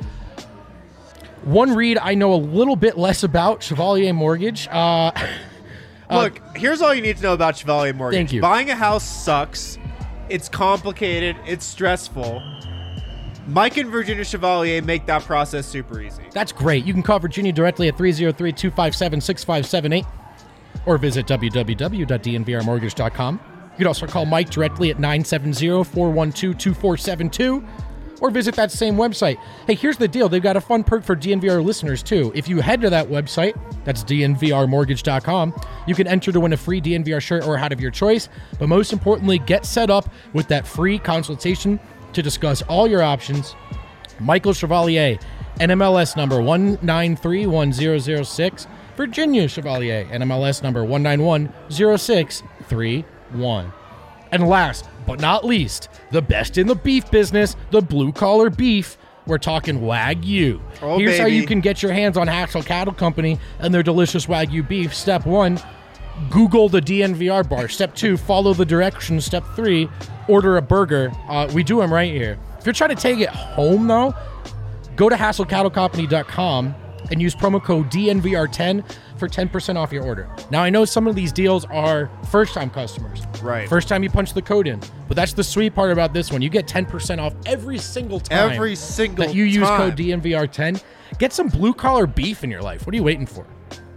One read I know a little bit less about, Chevalier Mortgage. Uh, Look, here's all you need to know about Chevalier Mortgage. Thank you. Buying a house sucks. It's complicated. It's stressful. Mike and Virginia Chevalier make that process super easy. That's great. You can call Virginia directly at three oh three, two five seven, six five seven eight or visit w w w dot d n v r mortgage dot com. You can also call Mike directly at nine seven zero, four one two, two four seven two or visit that same website. Hey, here's the deal. They've got a fun perk for D N V R listeners, too. If you head to that website, that's d n v r mortgage dot com, you can enter to win a free D N V R shirt or hat of your choice. But most importantly, get set up with that free consultation to discuss all your options. Michael Chevalier, N M L S number one nine three one zero zero six. Virginia Chevalier, N M L S number one nine one zero six three one. And last but not least, the best in the beef business, the blue collar beef. We're talking Wagyu. Oh, Here's how baby. you can get your hands on Haxel Cattle Company and their delicious Wagyu beef. Step one, Google the D N V R bar. Step two, follow the directions. Step three, order a burger. Uh, we do them right here. If you're trying to take it home, though, go to hassle cattle company dot com and use promo code D N V R ten for ten percent off your order. Now, I know some of these deals are first-time customers. Right. First time you punch the code in. But that's the sweet part about this one. You get ten percent off every single time. Every single that you use time. code D N V R ten. Get some blue-collar beef in your life. What are you waiting for?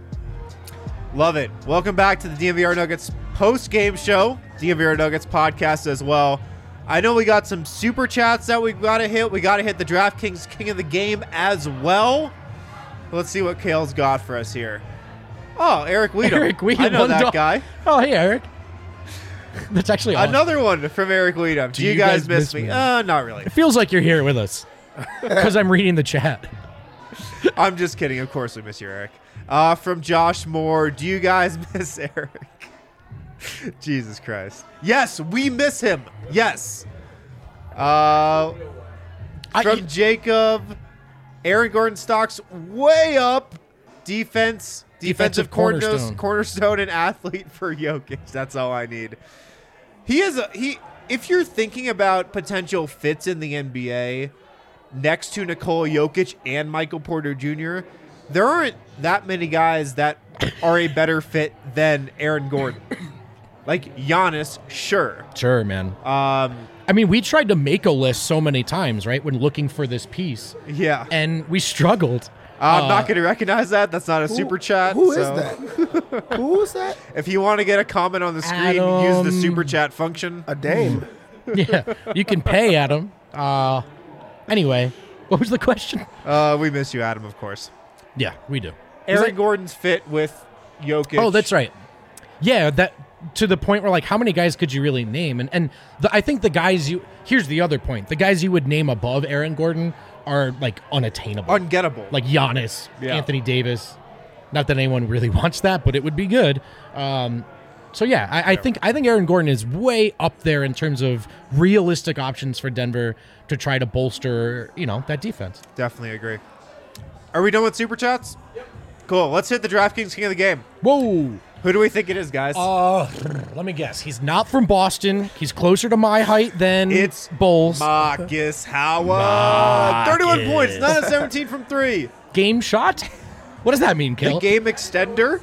Love it. Welcome back to the D N V R Nuggets post-game show, D N V R Nuggets podcast as well. I know we got some super chats that we got to hit. We got to hit the DraftKings King of the Game as well. Let's see what Kale's got for us here. Oh, Eric Weedham. Eric Weedham. I know one that dog. guy. Oh, hey, Eric. That's actually awesome. Another one from Eric Weedham. Do, Do you, you guys, guys miss, miss me? me? Uh, not really. It feels like you're here with us because I'm reading the chat. I'm just kidding. Of course we miss you, Eric. Uh, from Josh Moore. Do you guys miss Eric? Jesus Christ. Yes, we miss him. Yes. Uh, from I, Jacob. Aaron Gordon stocks way up. Defense. Defensive, Defensive cornerstone. cornerstone. cornerstone and athlete for Jokic. That's all I need. He is a he. If you're thinking about potential fits in the N B A next to Nikola Jokic and Michael Porter Junior, there aren't that many guys that are a better fit than Aaron Gordon. Like Giannis, sure. Sure, man. Um, I mean, we tried to make a list so many times, right, when looking for this piece, yeah. and we struggled. I'm Uh, not going to recognize that. That's not a super chat. Who is so that? Who is that? If you want to get a comment on the screen, Adam. use the super chat function. A dame. Yeah, you can pay Adam. Uh, anyway, what was the question? Uh, we miss you, Adam, of course. Yeah, we do. Aaron that- Gordon's fit with Jokic. Oh, that's right. Yeah, that to the point where like, how many guys could you really name? And and the, I think the guys you here's the other point: the guys you would name above Aaron Gordon are like unattainable, Ungettable. like Giannis, Yeah. Anthony Davis. Not that anyone really wants that, but it would be good. Um, so yeah, I, I think I think Aaron Gordon is way up there in terms of realistic options for Denver to try to bolster, you know, that defense. Definitely agree. Are we done with super chats? Yep. Cool. Let's hit the DraftKings King of the Game. Whoa. Who do we think it is, guys? Uh, let me guess. He's not from Boston. He's closer to my height than It's Bulls. Marcus Howard. Marcus. thirty-one points, nine of seventeen from three. Game shot? What does that mean, The Kale? game extender.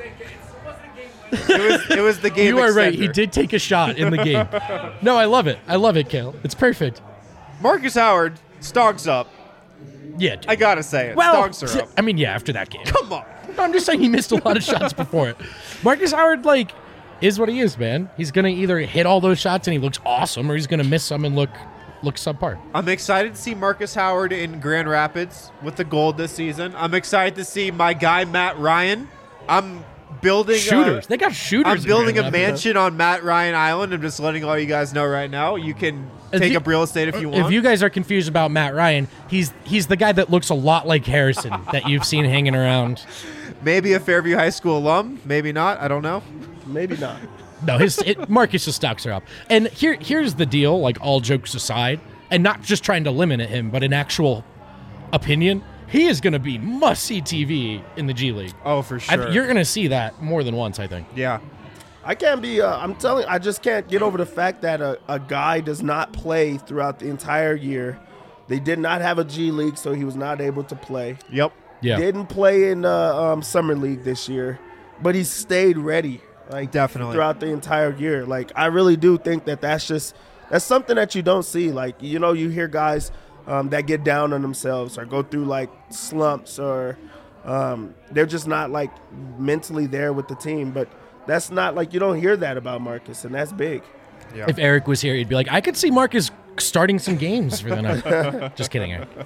It was, it was the game You are extender. right. He did take a shot in the game. No, I love it. I love it, Kale. It's perfect. Marcus Howard, stonks up. Yeah. dude. I got to say it. well, Stonks are up. I mean, yeah, after that game. Come on. No, I'm just saying he missed a lot of shots before it. Marcus Howard, like, is what he is, man. He's going to either hit all those shots and he looks awesome, or he's going to miss some and look look subpar. I'm excited to see Marcus Howard in Grand Rapids with the gold this season. I'm excited to see my guy Matt Ryan. I'm building Shooters. A, they got shooters. I'm in building Grand a Rapids. mansion on Matt Ryan Island. I'm just letting all you guys know right now. You can If take you- up real estate if you want. If you guys are confused about Matt Ryan, he's he's the guy that looks a lot like Harrison that you've seen hanging around. Maybe a Fairview High School alum. Maybe not. I don't know. Maybe not. No, his it, Marcus's stocks are up. And here here's the deal, like all jokes aside, and not just trying to limit him, but an actual opinion. He is going to be must-see T V in the G League. Oh, for I, sure. you're going to see that more than once, I think. yeah. I can't be. Uh, I'm telling. I just can't get over the fact that a, a guy does not play throughout the entire year. They did not have a G League, so he was not able to play. Yep. Yeah. Didn't play in the um, summer league this year, but he stayed ready. Like Definitely. throughout the entire year. Like I really do think that that's just that's something that you don't see. Like you know, you hear guys um, that get down on themselves or go through like slumps or um, they're just not like mentally there with the team. But that's not like you don't hear that about Marcus, and that's big. Yeah. If Eric was here, he'd be like, I could see Marcus starting some games for the night. Just kidding, Eric.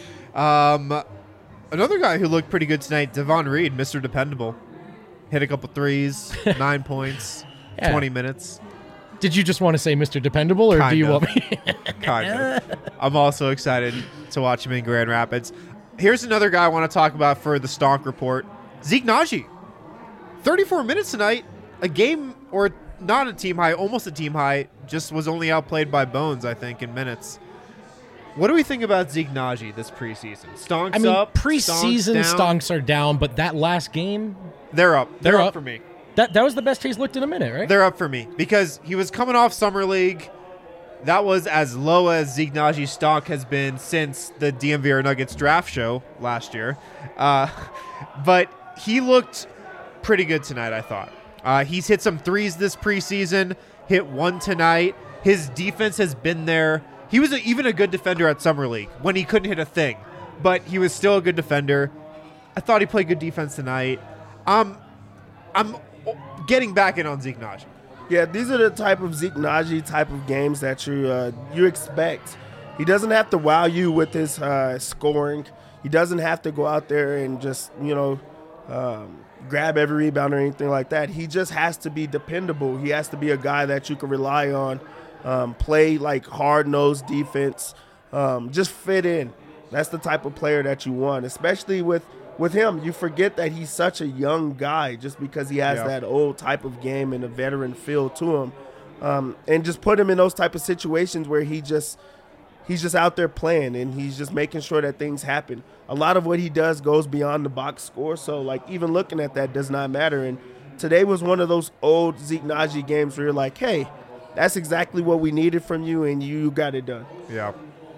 Um, another guy who looked pretty good tonight, Devon Reed, Mister Dependable. Hit a couple threes, nine points, Yeah. twenty minutes. Did you just want to say Mister Dependable, or do Kind you of. want me? Kind of. I'm also excited to watch him in Grand Rapids. Here's another guy I want to talk about for the Stonk Report. Zeke Naji. thirty-four minutes tonight. A game, or not a team high, almost a team high. Just was only outplayed by Bones, I think, in minutes. What do we think about Zeke Naji this preseason? Stonks I mean, up, preseason stonks down. stonks are down, but that last game, They're up. They're, They're up. up. for me. that that was the best he's looked in a minute, right? They're up for me because he was coming off summer league. that was as low as Zeke Najee's stock has been since the D M V R Nuggets draft show last year. Uh, but he looked pretty good tonight, I thought. Uh, he's hit some threes this preseason, hit one tonight. His defense has been there. He was a, even a good defender at Summer League when he couldn't hit a thing, but he was still a good defender. I thought he played good defense tonight. Um, I'm getting back in on Zeke Nnaji. Yeah, these are the type of Zeke Nnaji type of games that you uh, you expect. He doesn't have to wow you with his uh, scoring. He doesn't have to go out there and just, you know, um, grab every rebound or anything like that. He just has to be dependable. He has to be a guy that you can rely on, um, play like hard-nosed defense, um, just fit in. That's the type of player that you want, especially with, with him. You forget that he's such a young guy just because he has yeah. that old type of game and a veteran feel to him. Um, and just put him in those type of situations where he just he's just out there playing and he's just making sure that things happen. A lot of what he does goes beyond the box score, so like even looking at that does not matter. And today was one of those old Zeke Nnaji games where you're like, hey, that's exactly what we needed from you, and you got it done. Yeah.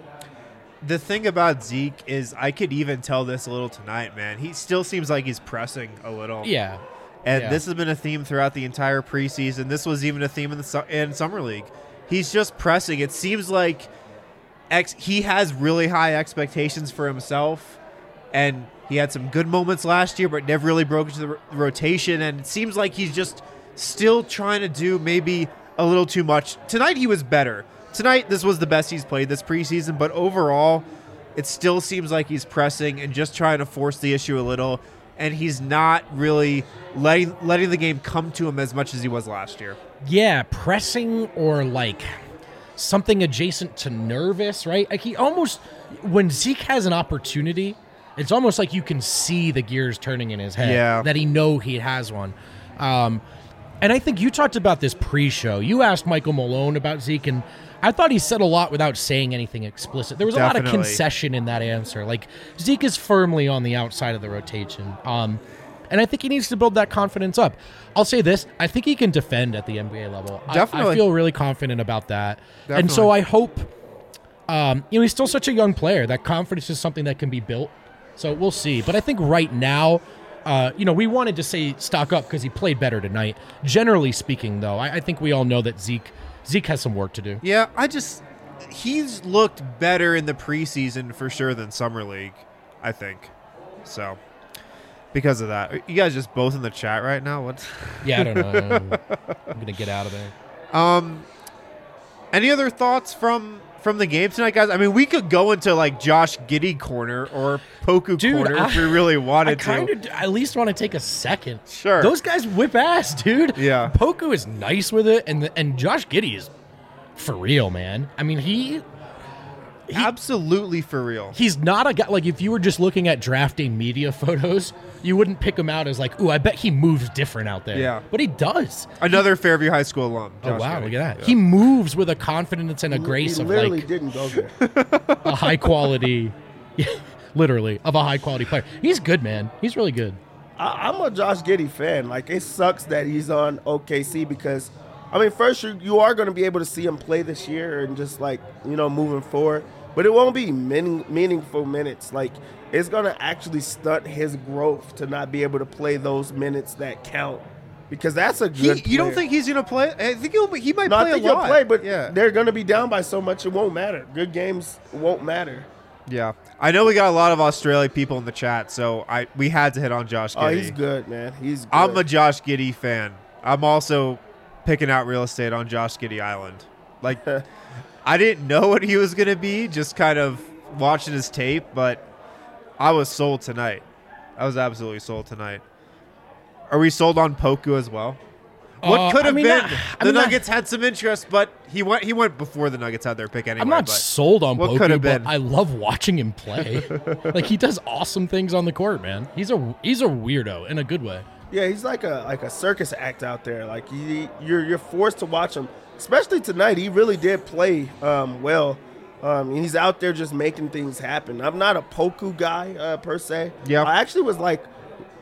The thing about Zeke is I could even tell this a little tonight, man. He still seems like he's pressing a little. Yeah. And yeah. this has been a theme throughout the entire preseason. This was even a theme in the su- in Summer League. He's just pressing. It seems like ex- he has really high expectations for himself, and he had some good moments last year, but never really broke into the r- rotation. And it seems like he's just still trying to do maybe a little too much. Tonight he was better. Tonight this was the best he's played this preseason, but overall it still seems like he's pressing and just trying to force the issue a little, and he's not really letting letting the game come to him as much as he was last year. Yeah, pressing or like something adjacent to nervous, right? Like he almost, when Zeke has an opportunity, it's almost like you can see the gears turning in his head. Yeah. That he know he has one. Um, and I think you talked about this pre-show. You asked Michael Malone about Zeke, and I thought he said a lot without saying anything explicit. There was a Definitely. lot of concession in that answer. Like, Zeke is firmly on the outside of the rotation. Um, and I think he needs to build that confidence up. I'll say this. I think he can defend at the N B A level. Definitely. I, I feel really confident about that. Definitely. And so I hope, um, you know, he's still such a young player. That confidence is something that can be built. So we'll see. But I think right now, uh, you know, we wanted to say stock up because he played better tonight. Generally speaking, though, I, I think we all know that Zeke – Zeke has some work to do. Yeah, I just he's looked better in the preseason for sure than Summer League, I think. So because of that, are you guys just both in the chat right now? What? Yeah, I don't know. I'm gonna get out of there. Um, any other thoughts from from the game tonight, guys? I mean, we could go into like Josh Giddey corner or Poku Dude, corner I, if we really I wanted kind to. of at least want to take a second. Sure. Those guys whip ass, dude. Yeah. Poku is nice with it, and the, and Josh Giddey is for real, man. I mean, he. He, Absolutely for real. He's not a guy, like if you were just looking at drafting media photos, you wouldn't pick him out as like, ooh, I bet he moves different out there. Yeah. But he does. Another Fairview High School alum. Oh, Josh wow, Giddey. look at that. Yeah. He moves with a confidence and a grace he of literally like didn't go there. a high quality, literally, of a high quality player. He's good, man. He's really good. I, I'm a Josh Giddey fan. Like, it sucks that he's on O K C because, I mean, first, you, you are going to be able to see him play this year and just, like, you know, moving forward. But it won't be meaning, meaningful minutes. Like, it's going to actually stunt his growth to not be able to play those minutes that count. Because that's a He, good you don't player. think he's going to play? I think he'll, he might No, play I think a lot. he'll play, but yeah. they're going to be down by so much it won't matter. Good games won't matter. Yeah. I know we got a lot of Australia people in the chat, so I we had to hit on Josh Giddey. Oh, he's good, man. He's good. I'm a Josh Giddey fan. I'm also picking out real estate on Josh Giddey Island. Like, I didn't know what he was going to be, just kind of watching his tape, but I was sold tonight. I was absolutely sold tonight. Are we sold on Poku as well? What Uh, could I have mean, been? I- I the mean, I- Nuggets had some interest, but he went He went before the Nuggets had their pick anyway. I'm not but sold on what Poku, could have but been? I love watching him play. Like, he does awesome things on the court, man. He's a he's a weirdo in a good way. Yeah, he's like a like a circus act out there. Like he, you're you're forced to watch him, especially tonight. He really did play um, well, um, and he's out there just making things happen. I'm not a Poku guy uh, per se. Yeah. I actually was like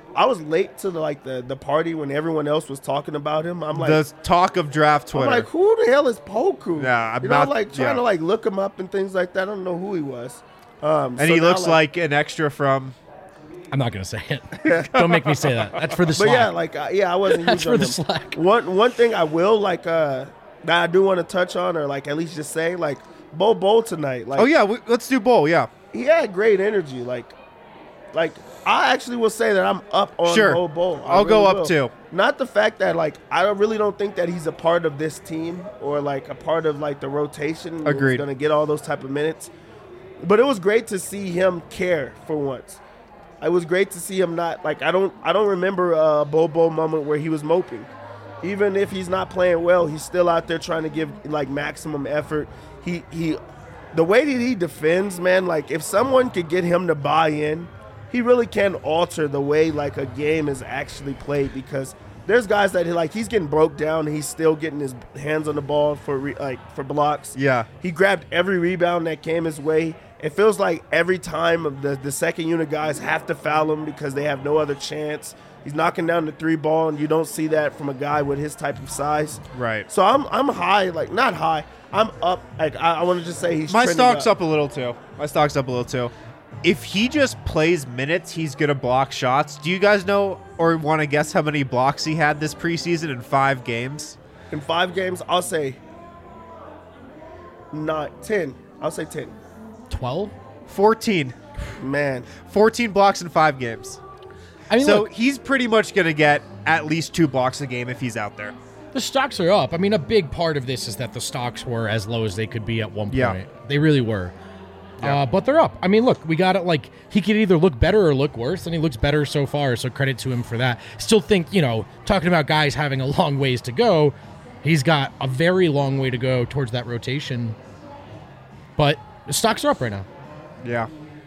I was late to the like the, the party when everyone else was talking about him. I'm like the talk of draft Twitter. I'm like, who the hell is Poku? Yeah, I'm you know, not- like trying yeah. to like look him up and things like that. I don't know who he was. Um, and so he now, looks like, an extra from. I'm not gonna say it. Don't make me say that. That's for the But Slack. yeah, like uh, yeah, I wasn't. That's huge for on the him. Slack. One one thing I will like uh, that I do want to touch on, or like at least just say, like Bo Bowl tonight. Like, Oh yeah, we, let's do bowl. Yeah, he had great energy. Like, like I actually will say that I'm up on Sure. Bo Bowl. I I'll go really up will. too. Not the fact that like I don't really don't think that he's a part of this team or like a part of like the rotation. where Agreed. He's gonna get all those type of minutes. But it was great to see him care for once. It was great to see him not like I don't I don't remember a Bo Bowl moment where he was moping. Even if he's not playing well, he's still out there trying to give like maximum effort. He he the way that he defends, man, like if someone could get him to buy in, he really can alter the way like a game is actually played, because there's guys that like he's getting broke down and he's still getting his hands on the ball for re, like for blocks. Yeah. He grabbed every rebound that came his way. It feels like every time of the, the second unit guys have to foul him because they have no other chance. He's knocking down the three ball, and you don't see that from a guy with his type of size. Right. So I'm I'm high, like not high. I'm up. Like I, I want to just say he's My trending stock's up. up a little too. My stock's up a little too. If he just plays minutes, he's gonna block shots. Do you guys know or want to guess how many blocks he had this preseason in five games? In five games. I'll say nine, ten. I'll say ten. twelve? fourteen. Man, fourteen blocks in five games. I mean, So look, he's pretty much going to get at least two blocks a game if he's out there. the stocks are up. I mean, a big part of this is that the stocks were as low as they could be at one point. Yeah. They really were. Yeah. Uh, but they're up. I mean, look, we got it. Like, he could either look better or look worse, and he looks better so far, so credit to him for that. Still think, you know, talking about guys having a long ways to go, he's got a very long way to go towards that rotation. But the stocks are up right now. Yeah.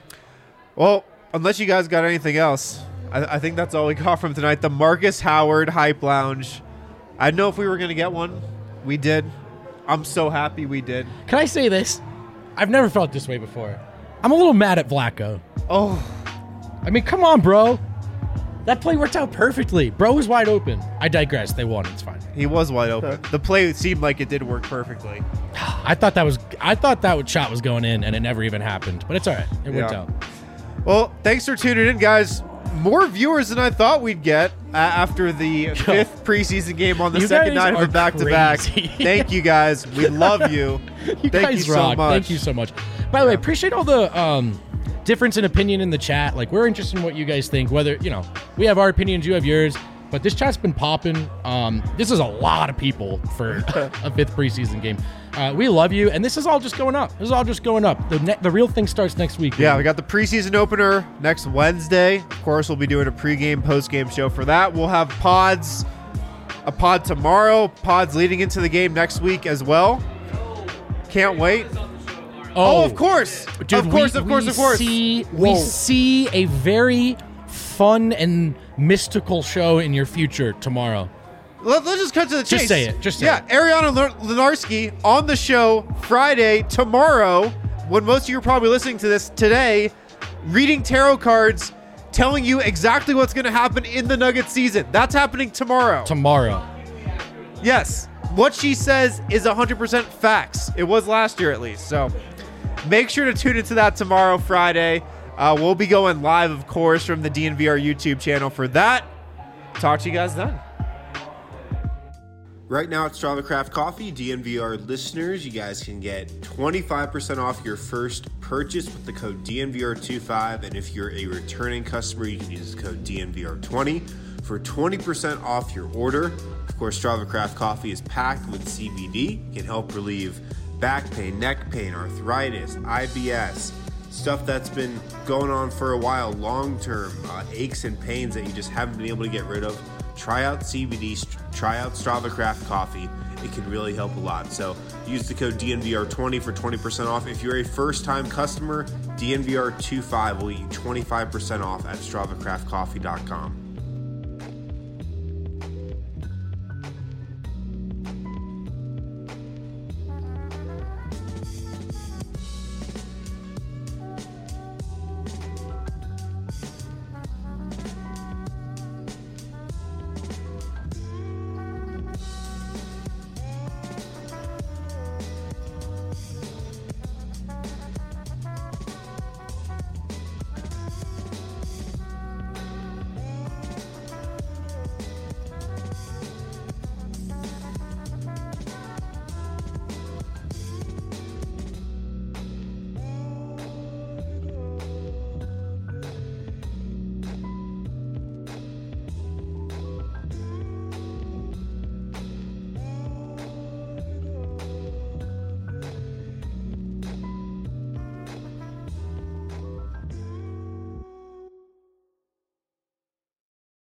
Well, unless you guys got anything else, I, I think that's all we got from tonight. The Marcus Howard Hype Lounge. I didn't know if we were going to get one. We did. I'm so happy we did. Can I say this? I've never felt this way before. I'm a little mad at Vlaco. Oh, I mean, come on, bro. That play worked out perfectly. Bro was wide open. I digress. They won. It's fine. he was wide open. The play seemed like it did work perfectly. I thought that was I thought that shot was going in, and it never even happened. But it's all right. It worked Yeah. out. Well, thanks for tuning in, guys. More viewers than I thought we'd get uh, after the fifth preseason game on the You second guys night of a are back-to-back. crazy. Thank you, guys. We love you. You Thank guys you rock. so much. Thank you so much. By the way, appreciate all the um, difference in opinion in the chat. Like, we're interested in what you guys think. Whether, you know, we have our opinions, you have yours. But this chat's been popping. Um, this is a lot of people for a fifth preseason game. Uh, we love you, and this is all just going up. This is all just going up. The ne- the real thing starts next week. Yeah, man. we got the preseason opener next Wednesday. Of course, we'll be doing a pregame, postgame show for that. We'll have pods, a pod tomorrow, pods leading into the game next week as well. Can't wait. Oh, of course. Dude, of course, we, of course, we of course. See, we Whoa. see a very fun and mystical show in your future tomorrow. Let, us just cut to the chase. Just say it, just say yeah, it. Ariana Len- Lenarski on the show Friday, tomorrow, when most of you are probably listening to this today, reading tarot cards, telling you exactly what's going to happen in the Nuggets season. That's happening tomorrow. Tomorrow. Yes. What she says is one hundred percent facts. It was last year at least. So make sure to tune into that tomorrow, Friday. Uh, we'll be going live, of course, from the D N V R YouTube channel for that. Talk to you guys then. Right now at Strava Craft Coffee, D N V R listeners, you guys can get twenty-five percent off your first purchase with the code D N V R twenty-five. And if you're a returning customer, you can use the code D N V R twenty for twenty percent off your order. Of course, Strava Craft Coffee is packed with C B D. It can help relieve back pain, neck pain, arthritis, I B S, stuff that's been going on for a while, long-term, uh, aches and pains that you just haven't been able to get rid of. Try out C B D, try out Strava Craft Coffee. It can really help a lot. So use the code D N V R twenty for twenty percent off. If you're a first-time customer, D N V R twenty-five will get you twenty-five percent off at strava craft coffee dot com.